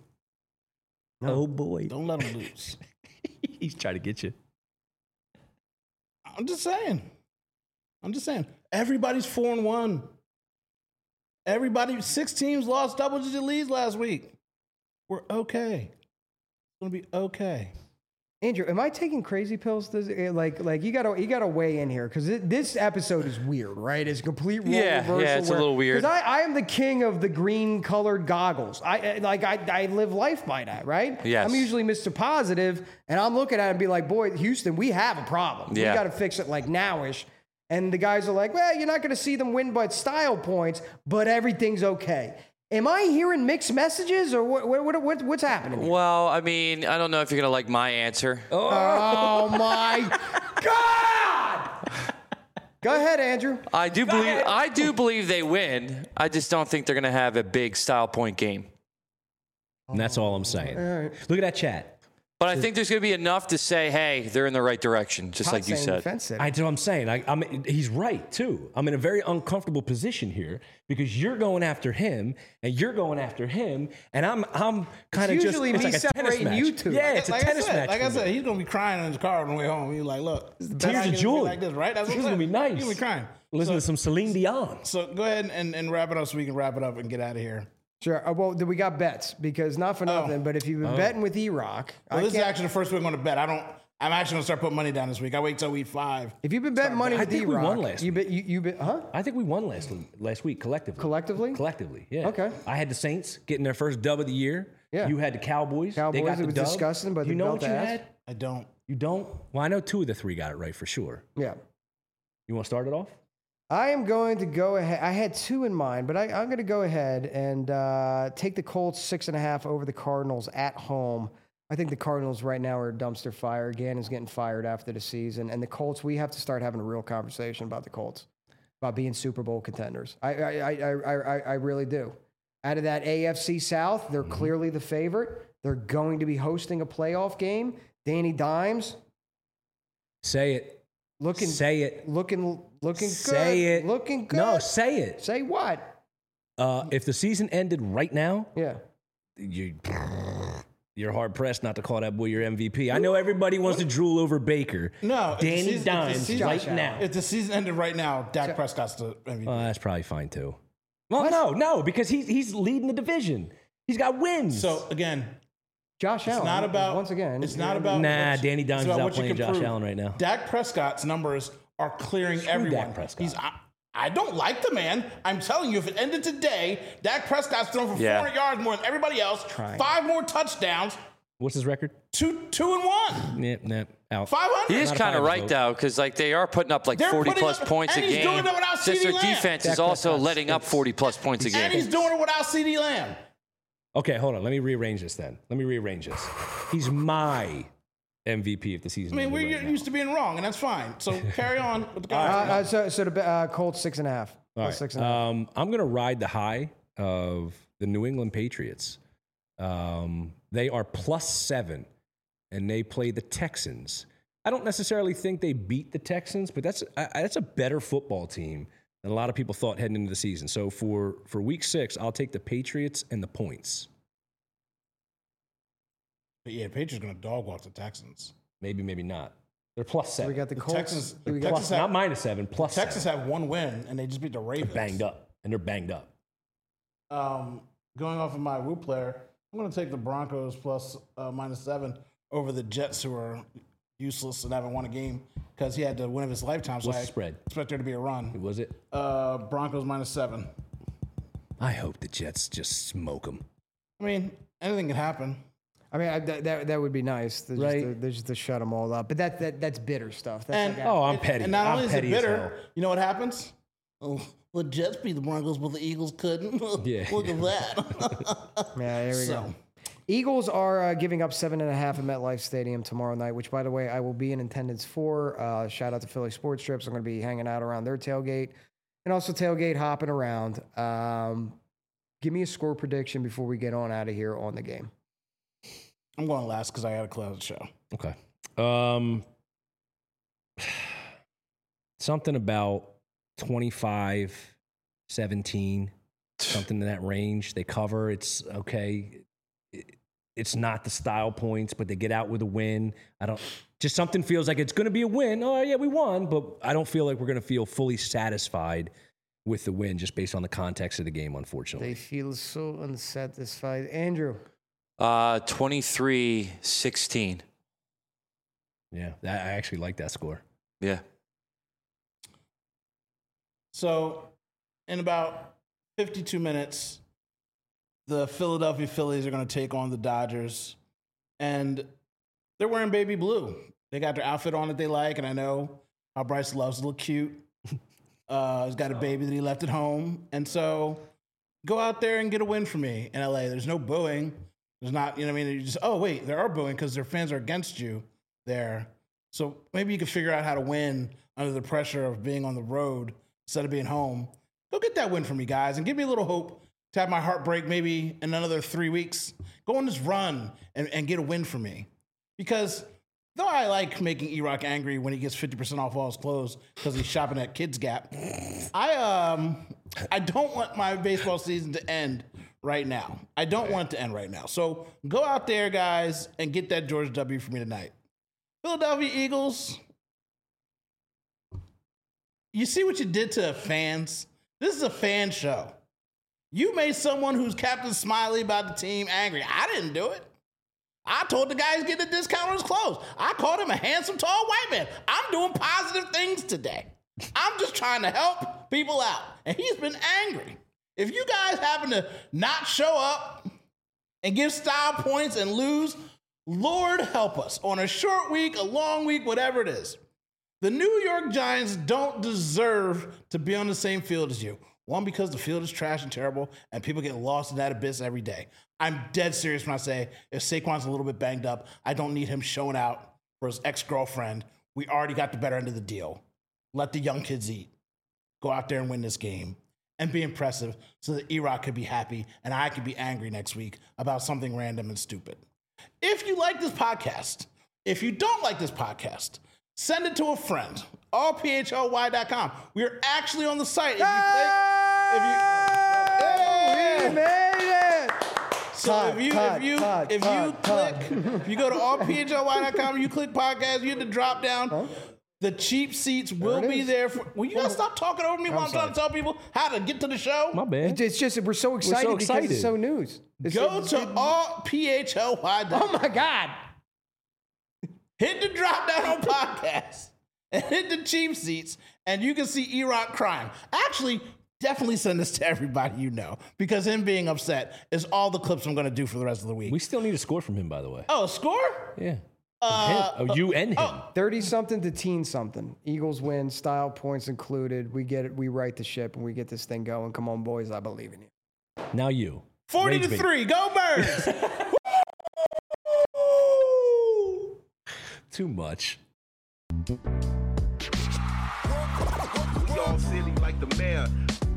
Oh boy. Don't let them lose. He's trying to get you. I'm just saying. I'm just saying. Everybody's four and one. Everybody, six teams lost double digit leads last week. We're okay. It's gonna be okay. Andrew, am I taking crazy pills? This, eh, like, like you gotta, you gotta weigh in here because this episode is weird, right? It's a complete role Yeah, reversal. yeah, it's a little weird. Because I, I am the king of the green colored goggles. I eh, like, I, I live life by that, right? Yes. I'm usually Mister Positive, and I'm looking at it and be like, boy, Houston, we have a problem. Yeah. We got to fix it like nowish. And the guys are like, well, you're not going to see them win by style points, but everything's okay. Am I hearing mixed messages, or what, what, what, what's happening here? Well, I mean, I don't know if you're going to like my answer. Oh my God! Go ahead, Andrew. I do believe I do believe they win. I just don't think they're going to have a big style point game. And that's all I'm saying. All right. Look at that chat. But I think there's going to be enough to say, hey, they're in the right direction, just like you Saying said. defense city. I do what I'm saying. I, I'm, he's right, too. I'm in a very uncomfortable position here because you're going after him and you're going after him, and I'm I'm kind of It's just usually it's me like a tennis separating match. you two. Yeah, Like- it's a like tennis I said, match. Like I for me. said, he's gonna be crying in his car on the way home. He's like, "Look, this Tears of joy. like this, right? That's This what is I'm gonna be saying. nice. He's gonna be crying." Listen so, to some Celine Dion. so go ahead and, and wrap it up so we can wrap it up and get out of here. Sure. Uh, well, then we got bets because not for nothing, but if you've been betting with E-Rock, Well, I this is can't. actually the first week I'm going to bet. I don't. I'm actually gonna start putting money down this week. I wait till week five. If you've been betting money I with think we D-Rock, won last you bet, you, you bet, huh? I think we won last last week collectively. Collectively? Collectively, yeah. Okay. I had the Saints getting their first dub of the year. Yeah. You had the Cowboys. Cowboys, They got it the was dub. disgusting, but you they know belt what you ass. had? I don't. You don't? Well, I know two of the three got it right for sure. Yeah. You want to start it off? I am going to go ahead. I had two in mind, but I, I'm going to go ahead and uh, take the Colts six and a half over the Cardinals at home. I think the Cardinals right now are a dumpster fire. Gannon's getting fired after the season. And the Colts, we have to start having a real conversation about the Colts, about being Super Bowl contenders. I, I, I, I, I, I really do. Out of that A F C South, they're mm-hmm. clearly the favorite. They're going to be hosting a playoff game. Danny Dimes. Say it. Looking, say it. Looking, looking say good. Say it. Looking good. No, say it. Say what? Uh, if the season ended right now, yeah, you, you're hard pressed not to call that boy your M V P. I know everybody wants to drool over Baker. No, Danny season, Dimes season, right now. If the season ended right now, Dak Prescott's the M V P. Well, that's probably fine too. Well, what? no, no, because he's he's leading the division. He's got wins. So again. Josh it's Allen. not about once again. It's not about nah. Danny Dimes is out playing Josh prove. Allen right now. Dak Prescott's numbers are clearing Screw everyone. Dak Prescott. He's. I, I don't like the man. I'm telling you, if it ended today, Dak Prescott's thrown for yeah. four hundred yards more than everybody else. Trying. Five more touchdowns. What's his record? Two, two and one. Yep, yeah, yep. Nah, out. Five hundred. He is kind of right vote. though, because like they are putting up like They're forty plus up, points a and he's game. Doing it without Just their Lamb. defense Dak is also Prescott's letting up forty plus points a game. And he's doing it without CeeDee Lamb. Okay, hold on. Let me rearrange this then. Let me rearrange this. He's my M V P if the season. I mean, we're right used now. to being wrong, and that's fine. So carry on with the uh, uh, So, so the uh, Colts six and a half. All right. Six and a half. Um, I'm going to ride the high of the New England Patriots. Um, they are plus seven, and they play the Texans. I don't necessarily think they beat the Texans, but that's uh, that's a better football team than a lot of people thought heading into the season. So for for week six, I'll take the Patriots and the points. But yeah, Patriots going to dog walk the Texans. Maybe, maybe not. They're plus seven. So we got the The Colts. Texans, we the got Texans Plus, have, not minus seven, plus the Texans seven. have one win, and they just beat the Ravens. They're banged up, and they're banged up. Um, going off of my Woo player, I'm going to take the Broncos plus uh, minus seven over the Jets, who are useless and haven't won a game because he had the win of his lifetime. So What's I the spread? expect there to be a run. Was it? Uh, Broncos minus seven. I hope the Jets just smoke them. I mean, anything can happen. I mean, I, that, that that would be nice. They're Right. Just to, they're just to shut them all up. But that, that that's bitter stuff. That's And like, Oh, I'm and- petty. And not I'm only is it petty as bitter, hell. you know what happens? Oh, the Jets beat the Broncos, but the Eagles couldn't. Yeah. Look at that. yeah, there we So. go. Eagles are uh, giving up seven and a half at MetLife Stadium tomorrow night, which, by the way, I will be in attendance for. Uh, shout out to Philly Sports Trips. I'm going to be hanging out around their tailgate and also tailgate hopping around. Um, give me a score prediction before we get on out of here on the game. I'm going last because I got to close the show. Okay. Um, something about twenty-five, seventeen, something in that range. They cover. It's okay. It, it's not the style points, but they get out with a win. I don't, just something feels like it's going to be a win. Oh, yeah, we won, but I don't feel like we're going to feel fully satisfied with the win just based on the context of the game, unfortunately. They feel so unsatisfied. Andrew. Uh, twenty-three sixteen. Yeah, that, I actually like that score. Yeah. So, in about fifty-two minutes, the Philadelphia Phillies are going to take on the Dodgers. And they're wearing baby blue. They got their outfit on that they like. And I know how Bryce loves to look cute. Uh, he's got a baby that he left at home. And so, go out there and get a win for me in L A. There's no booing. There's not, you know what I mean? You just, oh, wait, there are booing because their fans are against you there. So maybe you can figure out how to win under the pressure of being on the road instead of being home. Go get that win for me, guys, and give me a little hope to have my heart break maybe in another three weeks. Go on this run and, and get a win for me. Because though I like making E-Rock angry when he gets fifty percent off all his clothes because he's shopping at Kids Gap, I um I don't want my baseball season to end right now. I don't want it to end right now. So go out there, guys, and get that George W for me tonight. Philadelphia Eagles, you see what you did to fans? This is a fan show. You made someone who's Captain Smiley about the team angry. I didn't do it. I told the guy he's getting a discount on his clothes. I called him a handsome, tall white man. I'm doing positive things today. I'm just trying to help people out. And he's been angry. If you guys happen to not show up and give style points and lose, Lord help us. On a short week, a long week, whatever it is. The New York Giants don't deserve to be on the same field as you. One, because the field is trash and terrible, and people get lost in that abyss every day. I'm dead serious when I say if Saquon's a little bit banged up, I don't need him showing out for his ex-girlfriend. We already got the better end of the deal. Let the young kids eat. Go out there and win this game and be impressive so that E-Rock could be happy and I could be angry next week about something random and stupid. If you like this podcast, if you don't like this podcast, send it to a friend. all p h l y dot com. We are actually on the site. If you click, if you, Oh, we made it! so Todd, if you Todd, if you Todd, if you Todd, Todd. click, if you go to all p h l y dot com, you click podcast, you hit the drop down. Huh? The cheap seats will There it be is. there. For, will you guys stop talking over me while I'm trying to tell people how to get to the show? My bad. It's just we're so excited, because excited. it's so news. It's, Go it's- to it- all p h l y dot com. Oh my God! Hit the drop down on podcast and hit the cheap seats, and you can see E-Rock crying. Actually, definitely send this to everybody you know, because him being upset is all the clips I'm going to do for the rest of the week. We still need a score from him, by the way. oh, score? Yeah. Uh, Him. Oh, you and him. Thirty something to teen something. Eagles win. Style points included. We get it. We right the ship, and we get this thing going. Come on, boys! I believe in you. Now you. forty Rage to bait. three. Go Birds! Too much. We all silly like the mayor.